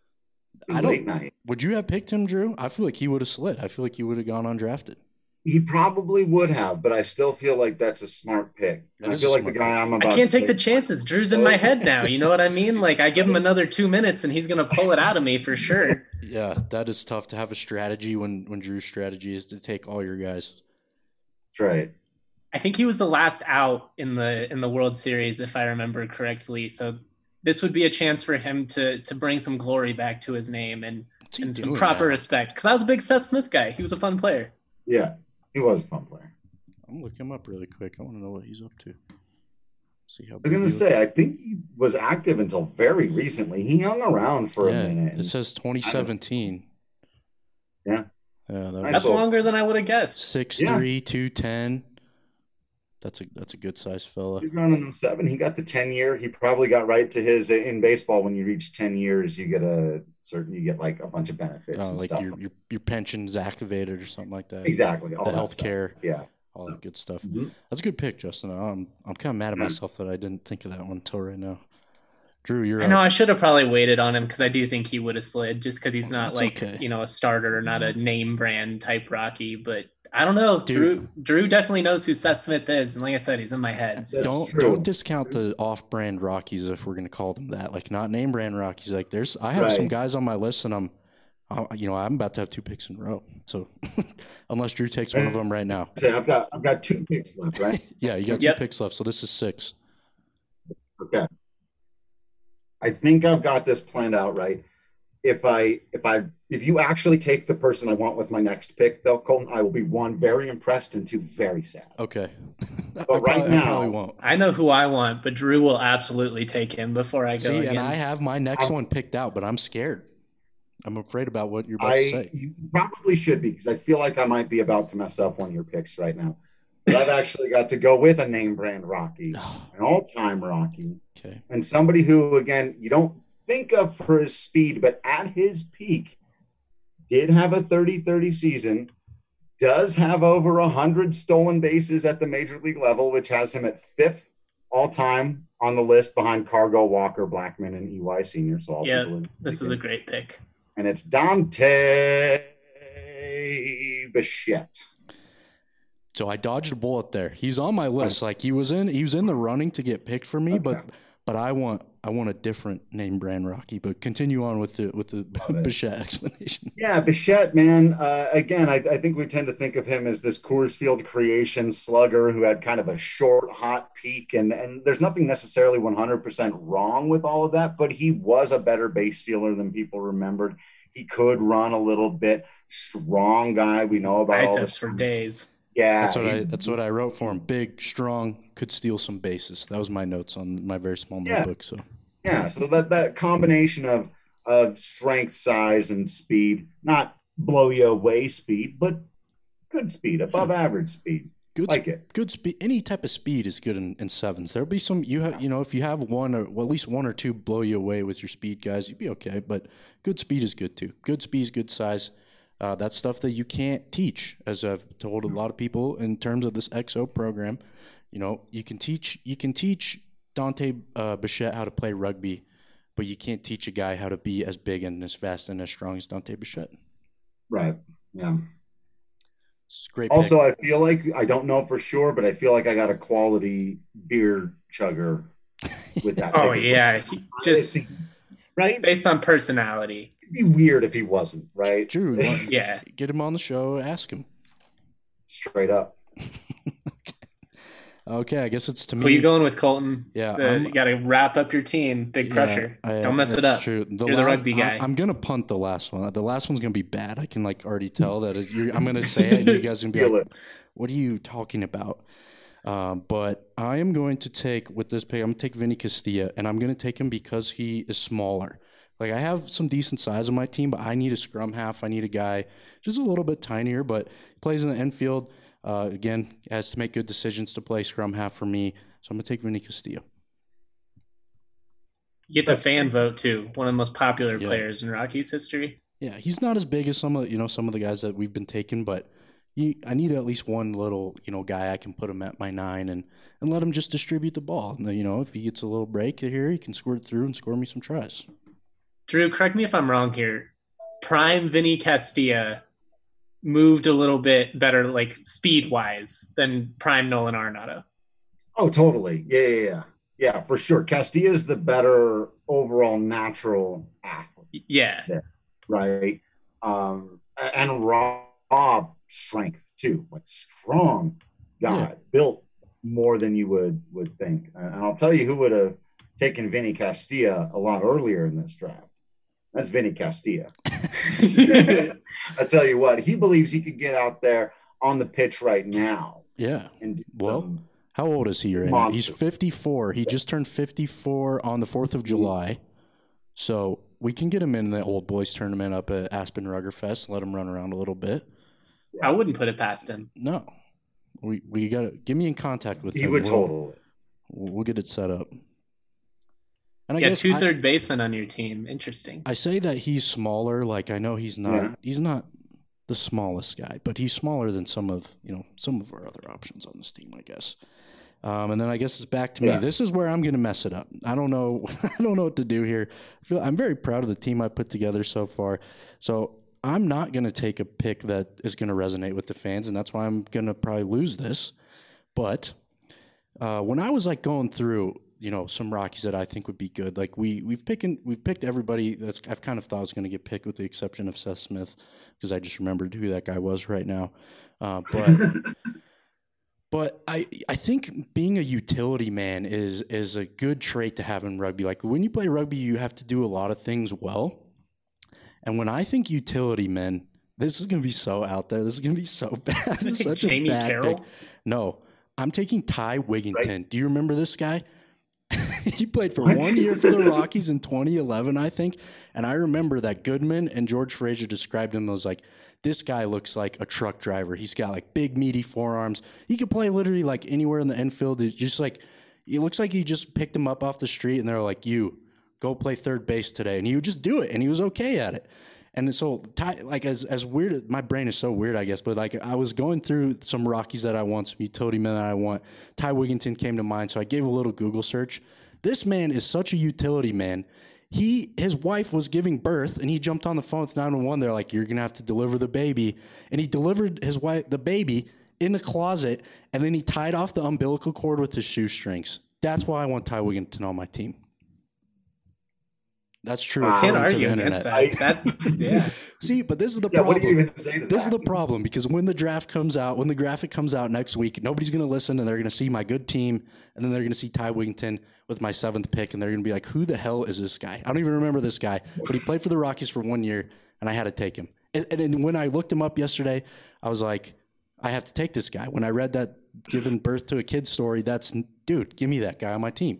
Would you have picked him, Drew? I feel like he would have slid. I feel like he would have gone undrafted.
He probably would have, but I still feel like that's a smart pick. I feel like the guy I'm about.
I can't take the chances. Drew's in my head now. You know what I mean? Like, I give him another 2 minutes, and he's gonna pull it out of me for sure.
Yeah, that is tough to have a strategy when Drew's strategy is to take all your guys.
That's right.
I think he was the last out in the World Series, if I remember correctly. So this would be a chance for him to bring some glory back to his name and some proper respect. Because I was a big Seth Smith guy. He was a fun player.
Yeah, he was a fun player.
I'm looking him up really quick. I want to know what he's up to. See how
I was going to say, I think he was active until very recently. He hung around for a minute.
It says 2017.
Yeah.
That's longer than I would have guessed.
6'3", 210. That's a good sized fella.
He's running in 07. He got the 10-year. He probably got right to his in baseball. When you reach 10 years, you get like a bunch of benefits and
like
stuff.
Your pension's activated or something like that.
Exactly.
The healthcare.
Yeah.
All that good stuff.
Mm-hmm.
That's a good pick, Justin. I'm kind of mad at myself that I didn't think of that one until right now. Drew, you're
I know I should have probably waited on him because I do think he would have slid just because he's not a starter or not a name brand type Rocky. But I don't know. Dude. Drew definitely knows who Seth Smith is. And like I said, he's in my head. So.
Don't discount the off-brand Rockies if we're going to call them that. Like not name brand Rockies. Like I have some guys on my list and I'm about to have 2 picks in a row. So unless Drew takes one of them right now.
So I've got 2 picks left, right?
Yeah, you got 2 picks left. So this is 6.
Okay. I think I've got this planned out right. If you actually take the person I want with my next pick, though, Colton, I will be 1, very impressed, and 2, very sad.
Okay.
But right now,
I know who I want, but Drew will absolutely take him before I go.
See, and I have my next one picked out, but I'm scared. I'm afraid about what you're about to say.
You probably should be, because I feel like I might be about to mess up one of your picks right now. But I've actually got to go with a name brand Rocky, an all-time Rocky.
Okay.
And somebody who, again, you don't think of for his speed, but at his peak, did have a 30-30 season, does have over 100 stolen bases at the major league level, which has him at 5th all-time on the list behind Cargo, Walker, Blackman, and EY Sr. So
this is a great pick.
And it's Dante Bichette.
So I dodged a bullet there. He's on my list. Like he was in the running to get picked for me, but I want a different name brand Rocky. But continue on with the Bichette explanation.
Yeah, Bichette, man. Again, I think we tend to think of him as this Coors Field creation slugger who had kind of a short, hot peak, and there's nothing necessarily 100% wrong with all of that, but he was a better base stealer than people remembered. He could run a little bit. Strong guy. We know about all this
for days.
Yeah,
that's what I wrote for him. Big, strong, could steal some bases. That was my notes on my very small notebook. So
that combination of strength, size, and speed, not blow you away speed, but good speed, above average speed. Good
speed. Any type of speed is good in sevens. There'll be some if you have one or at least 1 or 2 blow you away with your speed guys, you'd be okay. But good speed is good too. Good speed is good size. That's stuff that you can't teach, as I've told a lot of people in terms of this XO program. You can teach Dante Bichette how to play rugby, but you can't teach a guy how to be as big and as fast and as strong as Dante Bichette.
Right. Yeah.
It's great.
Also, pick. I feel like, I don't know for sure, but I feel like I got a quality beer chugger with that.
Oh yeah,
right.
Based on personality.
It'd be weird if he wasn't, right?
Drew, get him on the show, ask him.
Straight up.
Okay, I guess it's to me.
Who are you going with, Colton?
Yeah.
You got to wrap up your team. Big pressure. Don't mess it up.
True.
You're the rugby guy.
I'm going to punt the last one. The last one's going to be bad. I can already tell that. I'm going to say it, and you guys are going to be like, what are you talking about? But I am going to take, with this pick, I'm going to take Vinny Castilla, and I'm going to take him because he is smaller. Like, I have some decent size on my team, but I need a scrum half. I need a guy just a little bit tinier, but plays in the infield. Again, has to make good decisions to play scrum half for me. So I'm going to take Vinny Castillo.
You get the fan vote, too. One of the most popular players in Rockies history.
Yeah, he's not as big as some of the guys that we've been taking, but I need at least one little, guy I can put him at my 9 and let him just distribute the ball. And, if he gets a little break here, he can squirt through and score me some tries.
Drew, correct me if I'm wrong here. Prime Vinny Castilla moved a little bit better, like speed-wise, than prime Nolan Arenado.
Oh, totally. Yeah, for sure. Castilla's the better overall natural athlete.
Yeah.
Right. And raw strength, too. Like, strong guy. Built more than you would think. And I'll tell you who would have taken Vinny Castilla a lot earlier in this draft. That's Vinny Castilla. I tell you what, he believes he could get out there on the pitch right now.
Yeah.
And
How old is he right now? He's 54. He just turned 54 on the 4th of July. So we can get him in the old boys tournament up at Aspen Ruggerfest, let him run around a little bit.
I wouldn't put it past him.
No. We got to get me in contact with him.
He would totally.
We'll get it set up. And
I guess two third basemen on your team. Interesting.
I say that he's smaller. Like, I know he's not the smallest guy, but he's smaller than some of our other options on this team, I guess. And then I guess it's back to me. This is where I'm going to mess it up. I don't know. I don't know what to do here. I'm very proud of the team I put together so far. So I'm not going to take a pick that is going to resonate with the fans, and that's why I'm going to probably lose this. But when I was like going through, some Rockies that I think would be good, like we've picked everybody that's I've kind of thought was going to get picked, with the exception of Seth Smith, because I just remembered who that guy was right now. But I think being a utility man is a good trait to have in rugby. Like, when you play rugby, you have to do a lot of things well. And when I think utility men, this is going to be so out there. This is going to be so bad. This is such
Jamie
a bad
Carroll?
pick. No, I'm taking Ty Wigginton. Right. Do you remember this guy? He played for 1 year for the Rockies in 2011, I think. And I remember that Goodman and George Fraser described him as like, this guy looks like a truck driver. He's got like big, meaty forearms. He could play literally like anywhere in the infield. It looks like he just picked him up off the street and they're like, you go play third base today. And he would just do it. And he was okay at it. And so, like, as weird, my brain is so weird, I guess, but like, I was going through some Rockies that I want, some utility men that I want. Ty Wigginton came to mind, so I gave a little Google search. This man is such a utility man. His wife was giving birth, and he jumped on the phone with 911. They're like, you're going to have to deliver the baby. And he delivered his wife, the baby, in the closet, and then he tied off the umbilical cord with his shoestrings. That's why I want Ty Wigginton on my team. That's true.
I can't argue against that. Yeah.
See, but this is the problem.
What do you even say to that?
This is the problem, because when the draft comes out, when the graphic comes out next week, nobody's going to listen, and they're going to see my good team, and then they're going to see Ty Wigginton with my 7th pick, and they're going to be like, who the hell is this guy? I don't even remember this guy, but he played for the Rockies for 1 year, and I had to take him. And then when I looked him up yesterday, I was like, I have to take this guy. When I read that giving birth to a kid story, dude, give me that guy on my team.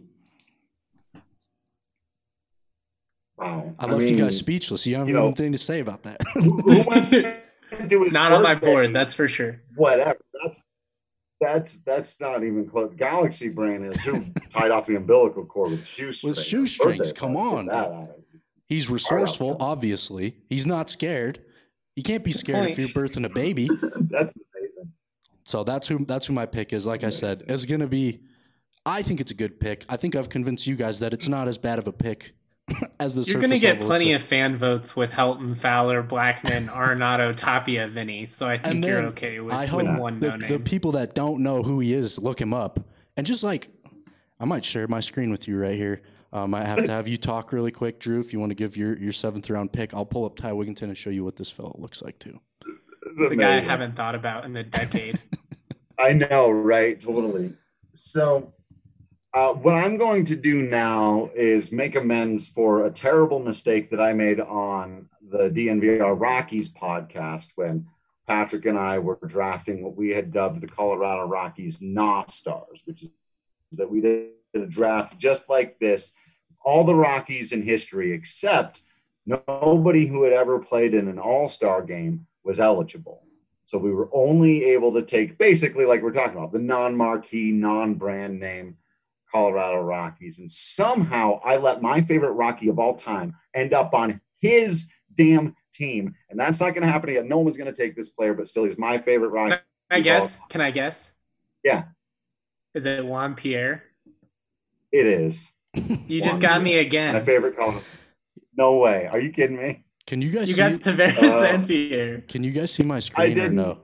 Wow.
I left you guys speechless. You don't have anything to say about that.
Not on my board, that's for sure.
Whatever. That's not even close. Galaxy Brain is who tied off the umbilical cord with shoestrings.
With shoestrings, come on. He's resourceful, obviously. He's not scared. You can't be scared if you're birthing a baby.
That's amazing.
So that's who my pick is. Like I said, it's going to be. I think it's a good pick. I think I've convinced you guys that it's not as bad of a pick as the.
You're going to get plenty of fan votes with Helton, Fowler, Blackman, Arenado, Tapia, Vinny. So I think you're okay with one no name.
The people that don't know who he is, look him up. And just like, I might share my screen with you right here. I might have to have you talk really quick, Drew, if you want to give your 7th round pick. I'll pull up Ty Wigginton and show you what this fellow looks like too.
It's the guy I haven't thought about in a decade.
I know, right? Totally. So what I'm going to do now is make amends for a terrible mistake that I made on the DNVR Rockies podcast when Patrick and I were drafting what we had dubbed the Colorado Rockies Stars, which is that we did a draft just like this, all the Rockies in history, except nobody who had ever played in an all-star game was eligible. So we were only able to take, basically like we're talking about, the non-marquee, non-brand name Colorado Rockies. And somehow I let my favorite Rocky of all time end up on his damn team. And that's not going to happen again. No one was going to take this player, but still he's my favorite Rocky.
Can I guess?
Yeah.
Is it Juan Pierre?
It is.
You just got me again.
My favorite Colorado. No way. Are you kidding me?
Can you guys
see? You got Tavares and Pierre.
Can you guys see my screen?
I didn't.
Or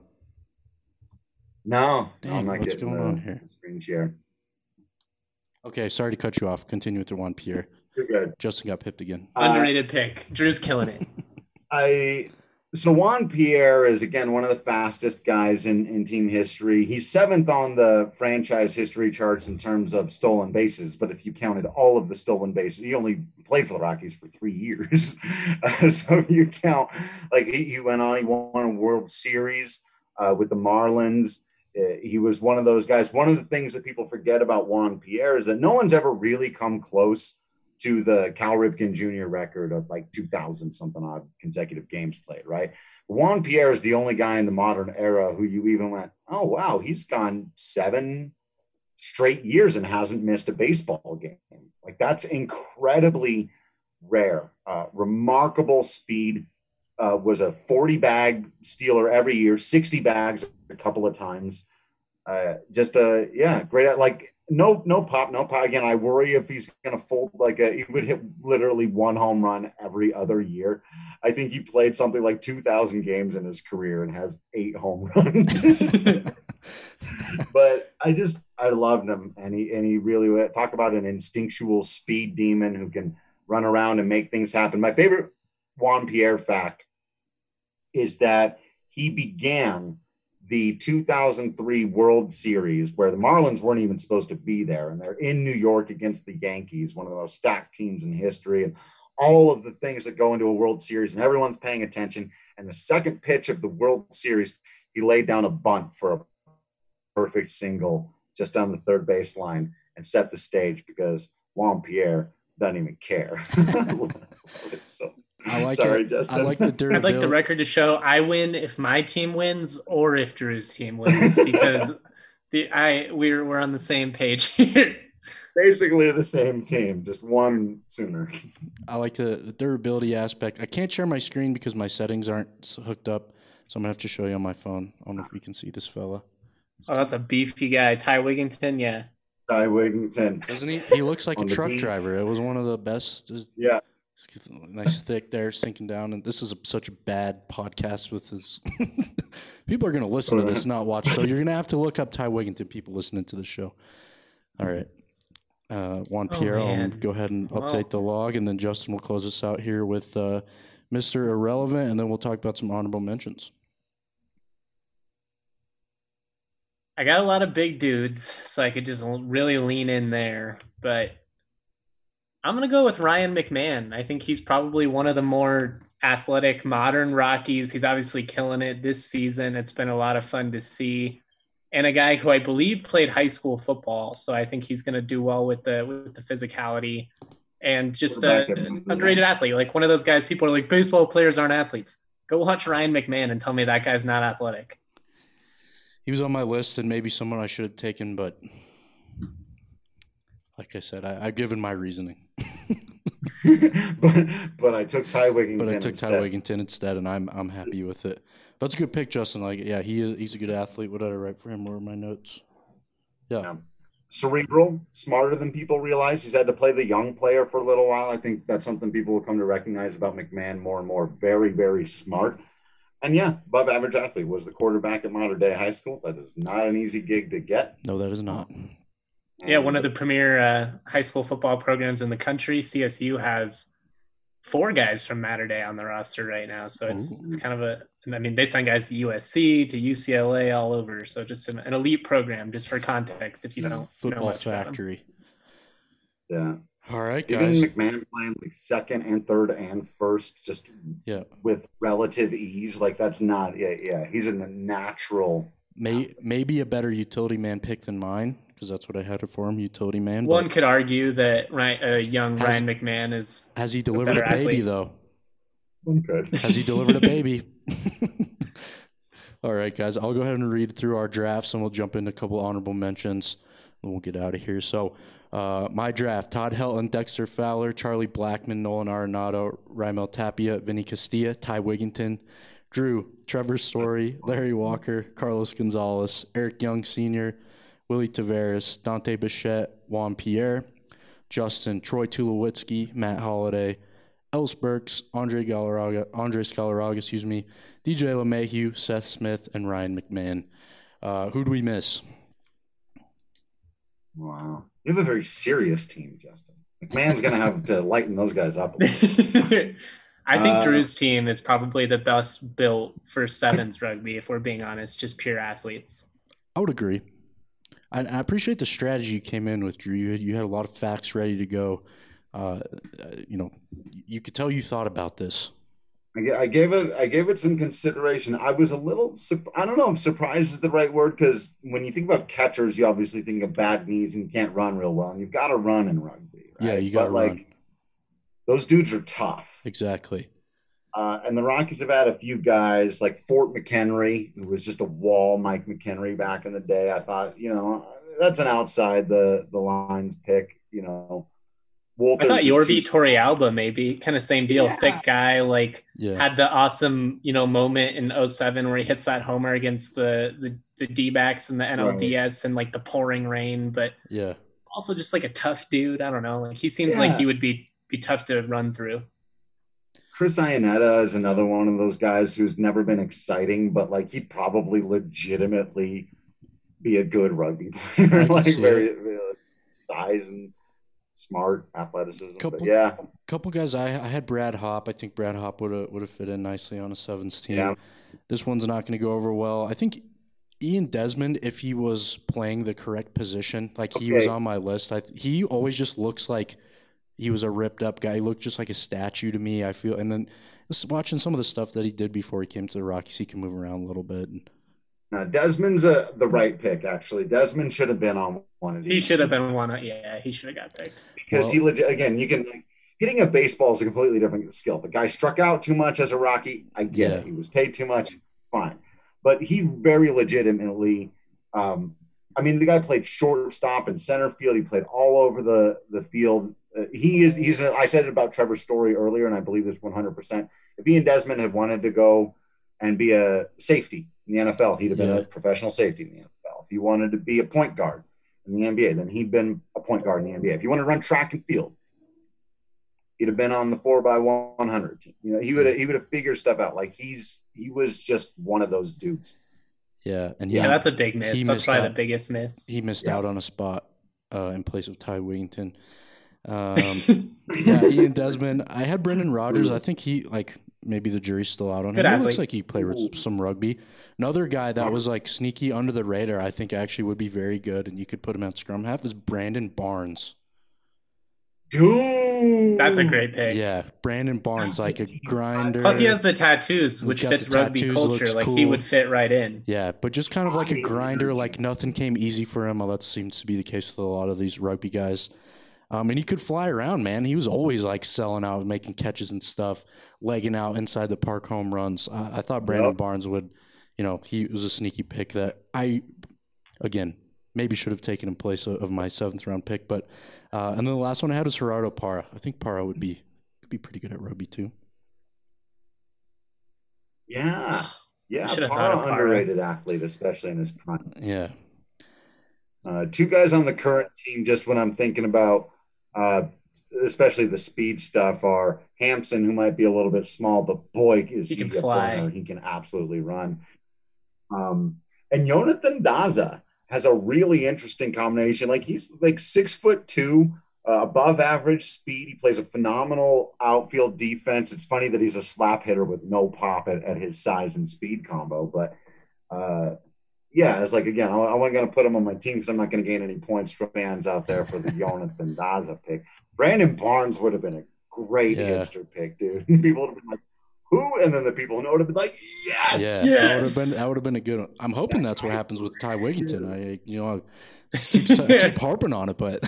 no?
Dang,
I'm not
what's
getting
going on here?
Screen share.
Okay, sorry to cut you off. Continue with the Juan Pierre.
You're good.
Justin got pipped again.
Underrated pick. Drew's killing it.
So Juan Pierre is, again, one of the fastest guys in team history. He's 7th on the franchise history charts in terms of stolen bases, but if you counted all of the stolen bases, he only played for the Rockies for 3 years. So if you count, like he went on, he won a World Series with the Marlins. He was one of those guys. One of the things that people forget about Juan Pierre is that no one's ever really come close to the Cal Ripken Jr. record of like 2,000 something odd consecutive games played, right? Juan Pierre is the only guy in the modern era who you even went, oh, wow, he's gone 7 straight years and hasn't missed a baseball game. Like, that's incredibly rare. Remarkable speed. Was a 40 bag stealer every year, 60 bags a couple of times. Great. Like no pop. Again, I worry if he's going to fold he would hit literally 1 home run every other year. I think he played something like 2,000 games in his career and has 8 home runs. But I loved him. And he really, talk about an instinctual speed demon who can run around and make things happen. My favorite Juan Pierre fact is that he began the 2003 World Series where the Marlins weren't even supposed to be there. And they're in New York against the Yankees, one of the most stacked teams in history, and all of the things that go into a World Series, and everyone's paying attention. And the second pitch of the World Series, he laid down a bunt for a perfect single just on the third base line and set the stage because Juan Pierre doesn't even care. So Justin.
I like the durability.
I'd like the record to show I win if my team wins or if Drew's team wins because we're on the same page here.
Basically the same team, just one sooner.
I like the durability aspect. I can't share my screen because my settings aren't hooked up, so I'm gonna have to show you on my phone. I don't know if you can see this fella.
Oh, that's a beefy guy, Ty Wigginton. Yeah,
Ty Wigginton.
Doesn't he? He looks like a truck driver. It was one of the best.
Yeah.
Nice thick there, sinking down. And this is such a bad podcast with this. People are going to listen to this, not watch. So you're going to have to look up Ty Wigginton, people listening to the show. All right. Juan Pierre, I'll go ahead and update the log, and then Justin will close us out here with Mr. Irrelevant, and then we'll talk about some honorable mentions.
I got a lot of big dudes, so I could just really lean in there. But I'm going to go with Ryan McMahon. I think he's probably one of the more athletic modern Rockies. He's obviously killing it this season. It's been a lot of fun to see. And a guy who I believe played high school football. So I think he's going to do well with the physicality and just an underrated athlete. Like one of those guys, people are like, baseball players aren't athletes. Go watch Ryan McMahon and tell me that guy's not athletic.
He was on my list and maybe someone I should have taken, but like I said, I've given my reasoning.
but I took Ty Wigginton
instead, and I'm happy with it. But it's a good pick, Justin. Like, yeah, he's a good athlete. What did I write for him? Where are my notes? Yeah.
Cerebral, smarter than people realize. He's had to play the young player for a little while. I think that's something people will come to recognize about McMahon more and more. Very, very smart. And yeah, above average athlete. Was the quarterback at Mater Dei High School. That is not an easy gig to get.
No, that is not.
Yeah, one of the premier high school football programs in the country. CSU has 4 guys from Mater Dei on the roster right now. So it's kind of they sign guys to USC, to UCLA, all over. So just an elite program, just for context, if you don't
football
know
factory.
Yeah.
All right, guys.
Even McMahon playing like second and third and first, just with relative ease. Like that's not. Yeah. He's in the natural.
Maybe a better utility man pick than mine. Because that's what I had it for him, utility man.
One could argue that young Ryan McMahon is.
Has he delivered a baby, though?
One could.
Has he delivered a baby? All right, guys. I'll go ahead and read through our drafts, and we'll jump into a couple honorable mentions, and we'll get out of here. So, my draft: Todd Helton, Dexter Fowler, Charlie Blackmon, Nolan Arenado, Raimel Tapia, Vinny Castilla, Ty Wigginton, Drew, Trevor Story, Larry Walker, Carlos Gonzalez, Eric Young Sr., Willie Taveras, Dante Bichette, Juan Pierre, Justin, Troy Tulowitzki, Matt Holliday, Els Burks, Andre Scalaraga, DJ LeMahieu, Seth Smith, and Ryan McMahon. Who do we miss?
Wow. You have a very serious team, Justin. McMahon's going to have to lighten those guys up a little.
I think Drew's team is probably the best built for sevens rugby, if we're being honest, just pure athletes.
I would agree. I appreciate the strategy you came in with, Drew. You had a lot of facts ready to go. You could tell you thought about this.
I gave it some consideration. I was a little, I don't know if surprised is the right word, because when you think about catchers, you obviously think of bad knees and you can't run real well, and you've got to run in rugby,
Yeah,
right?
you got to
But
run.
like those dudes are tough.
Exactly.
And the Rockies have had a few guys like Fort McHenry, who was just a wall, Mike McHenry back in the day. I thought, that's an outside the lines pick.
I thought
Walters is too
Yorvi
small.
Torrealba maybe kind of same deal,
Yeah,
thick guy, like
Yeah.
had the awesome moment in '07 where he hits that homer against the D-backs and the
right.
NLDS and like the pouring rain, but
Yeah.
also just like a tough dude. I don't know, like he seems like
Yeah.
he would be tough to run through.
Chris Iannetta is another one of those guys who's never been exciting, but like he'd probably legitimately be a good rugby player,
I can
like
see
very,
it.
size and smart athleticism. But
Couple
yeah,
couple guys. I had Brad Hop. I think Brad Hop would have fit in nicely on a sevens team.
yeah,
This one's not going to go over well. I think Ian Desmond, if he was playing the correct position, like he was
okay.
on my list, he always just looks like he was a ripped up guy. He looked just like a statue to me, I feel. And then just watching some of the stuff that he did before he came to the Rockies, he can move around a little bit. And
Desmond's the right pick, actually. Desmond should have been on one of
He
these
should have
teams
been one. Yeah, he should have got picked.
because he
well,
legit, again, you can like hitting a baseball is a completely different skill. The guy struck out too much as a Rocky. I get
yeah,
it. He was paid too much. Fine. But he very legitimately, I mean, the guy played shortstop and center field. He played all over the field. I said it about Trevor Story earlier, and I believe this 100%. If Ian Desmond had wanted to go and be a safety in the NFL, he'd have been
yeah,
a professional safety in the NFL. If he wanted to be a point guard in the NBA, then he'd been a point guard in the NBA. If he wanted to run track and field, he'd have been on the 4x100 team. He would have figured stuff out. Like he was just one of those dudes.
yeah. And
Yeah, that's a big
he
miss. That's
missed
probably
out.
the biggest miss.
He missed
Yeah.
out on a spot in place of Ty Wigginton. Yeah, Ian Desmond. I had Brendan Rodgers. I think he maybe the jury's still out on
Good
him. He looks
athlete.
like he played some rugby. Another guy that was like sneaky under the radar, I think actually would be very good, and you could put him at scrum half is Brandon Barnes.
Dude,
That's a great pick.
Yeah, Brandon Barnes, like a grinder.
Plus, he has the tattoos, which
got
fits
the
rugby
tattoos,
culture.
looks
Like he
cool.
would fit right in.
Yeah, but just kind of like a grinder, like nothing came easy for him. Well, that seems to be the case with a lot of these rugby guys. And he could fly around, man. He was always like selling out, making catches and stuff, legging out inside the park home runs. I thought Brandon Barnes would, he was a sneaky pick that again, maybe should have taken in place of my 7th round pick. But and then the last one I had was Gerardo Parra. I think Parra could be pretty good at rugby too.
Yeah.
Should have thought
Parra
of Parra.
underrated athlete, especially in his prime.
Yeah.
Two guys on the current team, just when I'm thinking about, especially the speed stuff, are Hampson, who might be a little bit small, but boy, is
He
he
can
a
fly.
burner. He can absolutely run. And Jonathan Daza has a really interesting combination. Like he's like 6'2", above average speed. He plays a phenomenal outfield defense. It's funny that he's a slap hitter with no pop at his size and speed combo, but yeah, it's like, again, I wasn't going to put him on my team because I'm not going to gain any points from fans out there for the Jonathan Daza pick. Brandon Barnes would have been a great hipster pick, dude. People would have been like, who? And then the people who know would have been like, yes.
Yeah, that would have been a good one. I'm hoping that's what happens with Ty Wigginton. I keep harping on it, but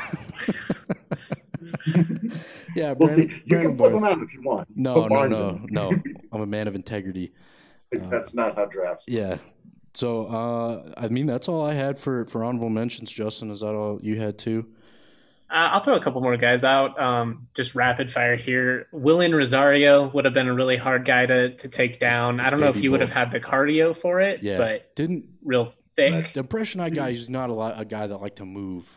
yeah,
we'll see. You can flip him out if you want.
No. I'm a man of integrity.
That's not how drafts.
Yeah. So, I mean, that's all I had for honorable mentions. Justin, is that all you had too?
I'll throw a couple more guys out. Just rapid fire here. Willian Rosario would have been a really hard guy to take down. I don't know if he would have had the cardio for it, but
didn't
real thick.
The impression I got, he's not a guy that liked to move.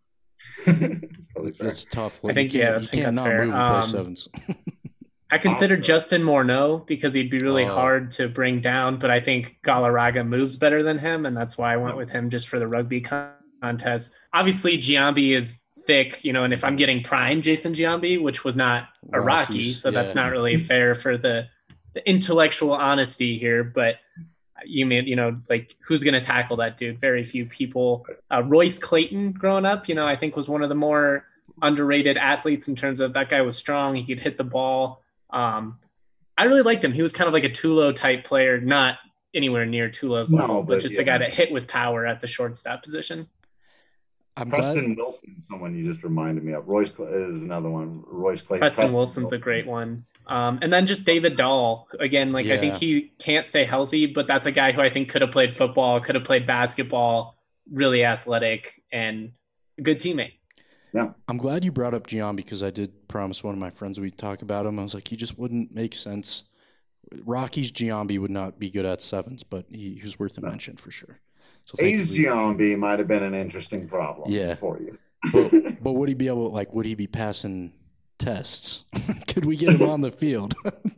It's tough.
I think,
you
that's
can't not
fair.
move and play sevens.
I considered Justin Morneau because he'd be really hard to bring down, but I think Galarraga moves better than him, and that's why I went with him just for the rugby contest. Obviously, Giambi is thick, and if I'm getting prime Jason Giambi, which was not a Rocky, so that's not really fair for the intellectual honesty here, but you mean, like who's going to tackle that dude? Very few people. Royce Clayton growing up, I think was one of the more underrated athletes in terms of that guy was strong. He could hit the ball. I I really liked him. He was kind of like a Tulo type player, not anywhere near Tulo's level, but just a guy that hit with power at the shortstop position.
Preston Wilson, someone you just reminded me of. Royce is another one. Royce Clay.
Preston Wilson's a great one. And then just David Dahl. Again, I think he can't stay healthy, but that's a guy who I think could have played football, could have played basketball, really athletic, and a good teammate.
Yeah.
I'm glad you brought up Giambi because I did promise one of my friends we'd talk about him. I was like, he just wouldn't make sense. Rockies Giambi would not be good at sevens, but he was worth a mention for sure.
So A's Giambi might have been an interesting problem for you.
But would he be able, would he be passing tests? Could we get him on the field?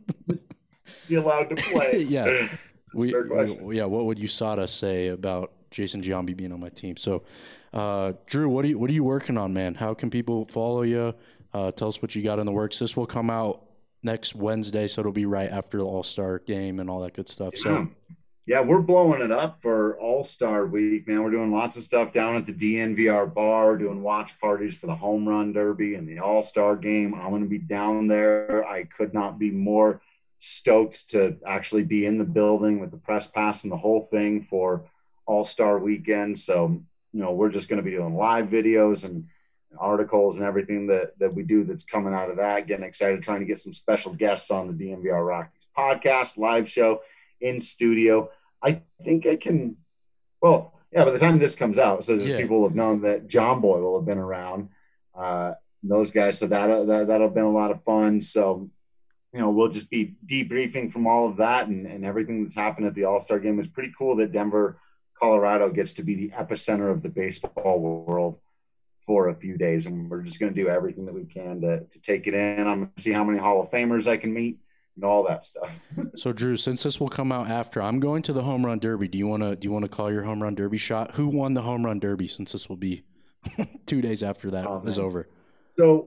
Be allowed to play?
Yeah. What would USADA say about Jason Giambi being on my team? So, Drew, what are you working on, man? How can people follow you? Tell us what you got in the works. This will come out next Wednesday, so it'll be right after the All-Star game and all that good stuff. So.
Yeah, we're blowing it up for All-Star Week, man. We're doing lots of stuff down at the DNVR bar, doing watch parties for the Home Run Derby and the All-Star Game. I'm going to be down there. I could not be more stoked to actually be in the building with the press pass and the whole thing for All-Star Weekend. So, we're just going to be doing live videos and articles and everything that we do that's coming out of that. Getting excited, trying to get some special guests on the DNVR Rockies podcast, live show, in studio. I think I can, by the time this comes out, so people have known that John Boy will have been around, those guys. So that'll have been a lot of fun. So, we'll just be debriefing from all of that and everything that's happened at the All-Star game. It's pretty cool that Denver, Colorado gets to be the epicenter of the baseball world for a few days. And we're just going to do everything that we can to take it in. I'm going to see how many Hall of Famers I can meet. And all that stuff.
So, Drew, since this will come out after, I'm going to the Home Run Derby. Do you want to call your Home Run Derby shot? Who won the Home Run Derby? Since this will be 2 days after that is over.
So,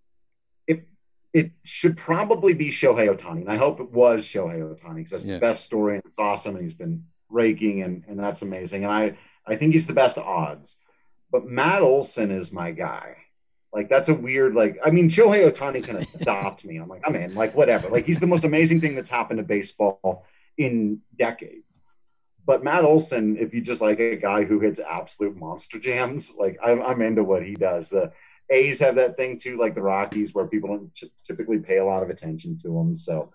it should probably be Shohei Ohtani, and I hope it was Shohei Ohtani because that's the best story and it's awesome, and he's been raking, and that's amazing. And I think he's the best odds. But Matt Olson is my guy. That's a weird, Shohei Ohtani can adopt me. I'm like, I'm in, whatever. He's the most amazing thing that's happened to baseball in decades. But Matt Olson, if you just like a guy who hits absolute monster jams, I'm into what he does. The A's have that thing too, like the Rockies, where people don't typically pay a lot of attention to him. So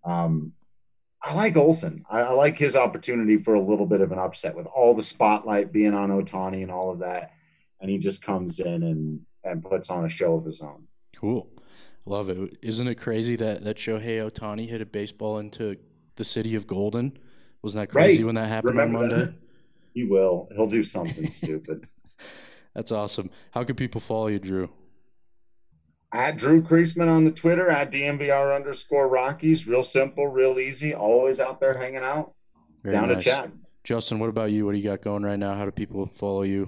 I like Olson. I like his opportunity for a little bit of an upset with all the spotlight being on Ohtani and all of that. And he just comes in and puts on a show of his own.
Cool. Love it. Isn't it crazy that Shohei Ohtani hit a baseball into the city of Golden? Wasn't that crazy when that happened on Monday?
That? He will. He'll do something stupid.
That's awesome. How can people follow you, Drew?
At Drew Kreisman on the Twitter, at DNVR_Rockies. Real simple, real easy. Always out there hanging out.
Very
down
nice.
To chat.
Justin, what about you? What do you got going right now? How do people follow you?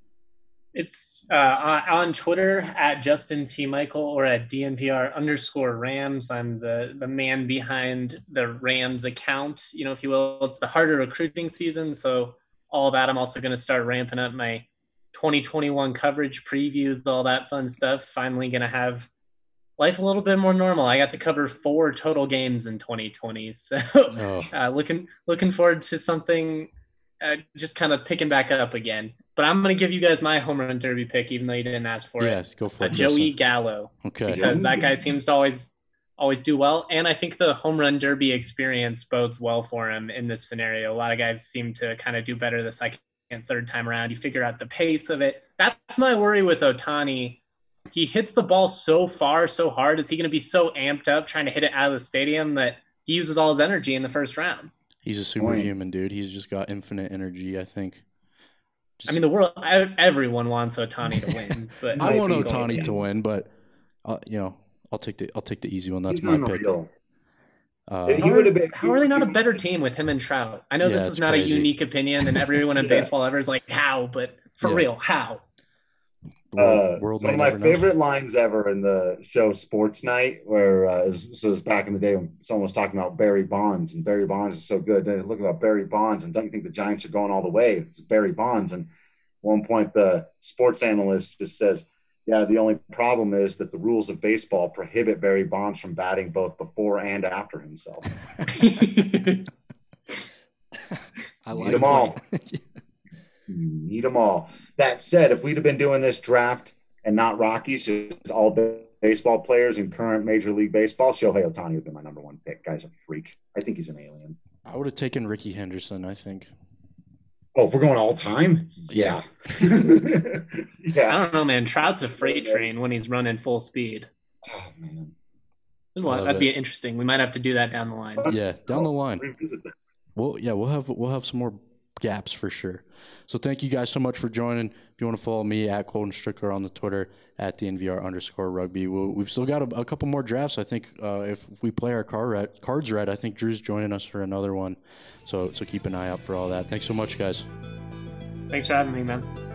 It's on Twitter at Justin T. Michael or at DNVR_Rams. I'm the man behind the Rams account, if you will. It's the harder recruiting season, so all that. I'm also going to start ramping up my 2021 coverage previews, all that fun stuff. Finally going to have life a little bit more normal. I got to cover 4 total games in 2020, so looking forward to something just kind of picking back up again. But I'm going to give you guys my home run derby pick, even though you didn't ask for it.
Yes, go for it.
Joey Gallo.
Okay.
Because that guy seems to always do well. And I think the home run derby experience bodes well for him in this scenario. A lot of guys seem to kind of do better the second and third time around. You figure out the pace of it. That's my worry with Ohtani. He hits the ball so far, so hard. Is he going to be so amped up trying to hit it out of the stadium that he uses all his energy in the first round?
He's a superhuman, dude. He's just got infinite energy, I think.
The world, everyone wants Ohtani to win. But
I want Ohtani to win, but I'll take the easy one. That's my pick.
How are they not a better team with him and Trout? I know this is not
crazy.
A unique opinion, and everyone in baseball ever is like, how? But for real, how?
One of my favorite lines ever in the show Sports Night, where it was back in the day when someone was talking about Barry Bonds, and Barry Bonds is so good. They look about Barry Bonds, and don't you think the Giants are going all the way? It's Barry Bonds. And at one point, the sports analyst just says, Yeah, the only problem is that the rules of baseball prohibit Barry Bonds from batting both before and after himself.
I like
Need them all. Need them all. That said, if we'd have been doing this draft and not Rockies, just all baseball players in current Major League Baseball, Shohei Ohtani would have been my number one pick. Guy's a freak. I think he's an alien.
I would have taken Ricky Henderson, I think.
Oh, if we're going all time? Yeah.
Yeah. I don't know, man. Trout's a freight train when he's running full speed.
Oh, man.
There's a lot. That'd be interesting. We might have to do that down the line.
Yeah, down the line. We'll have some more gaps for sure. So thank you guys so much for joining. If you want to follow me at Colton Strickler on the Twitter, at DNVR_rugby. We've still got a couple more drafts. I think if we play our cards right, I think Drew's joining us for another one. So keep an eye out for all that. Thanks so much, guys.
Thanks for having me, man.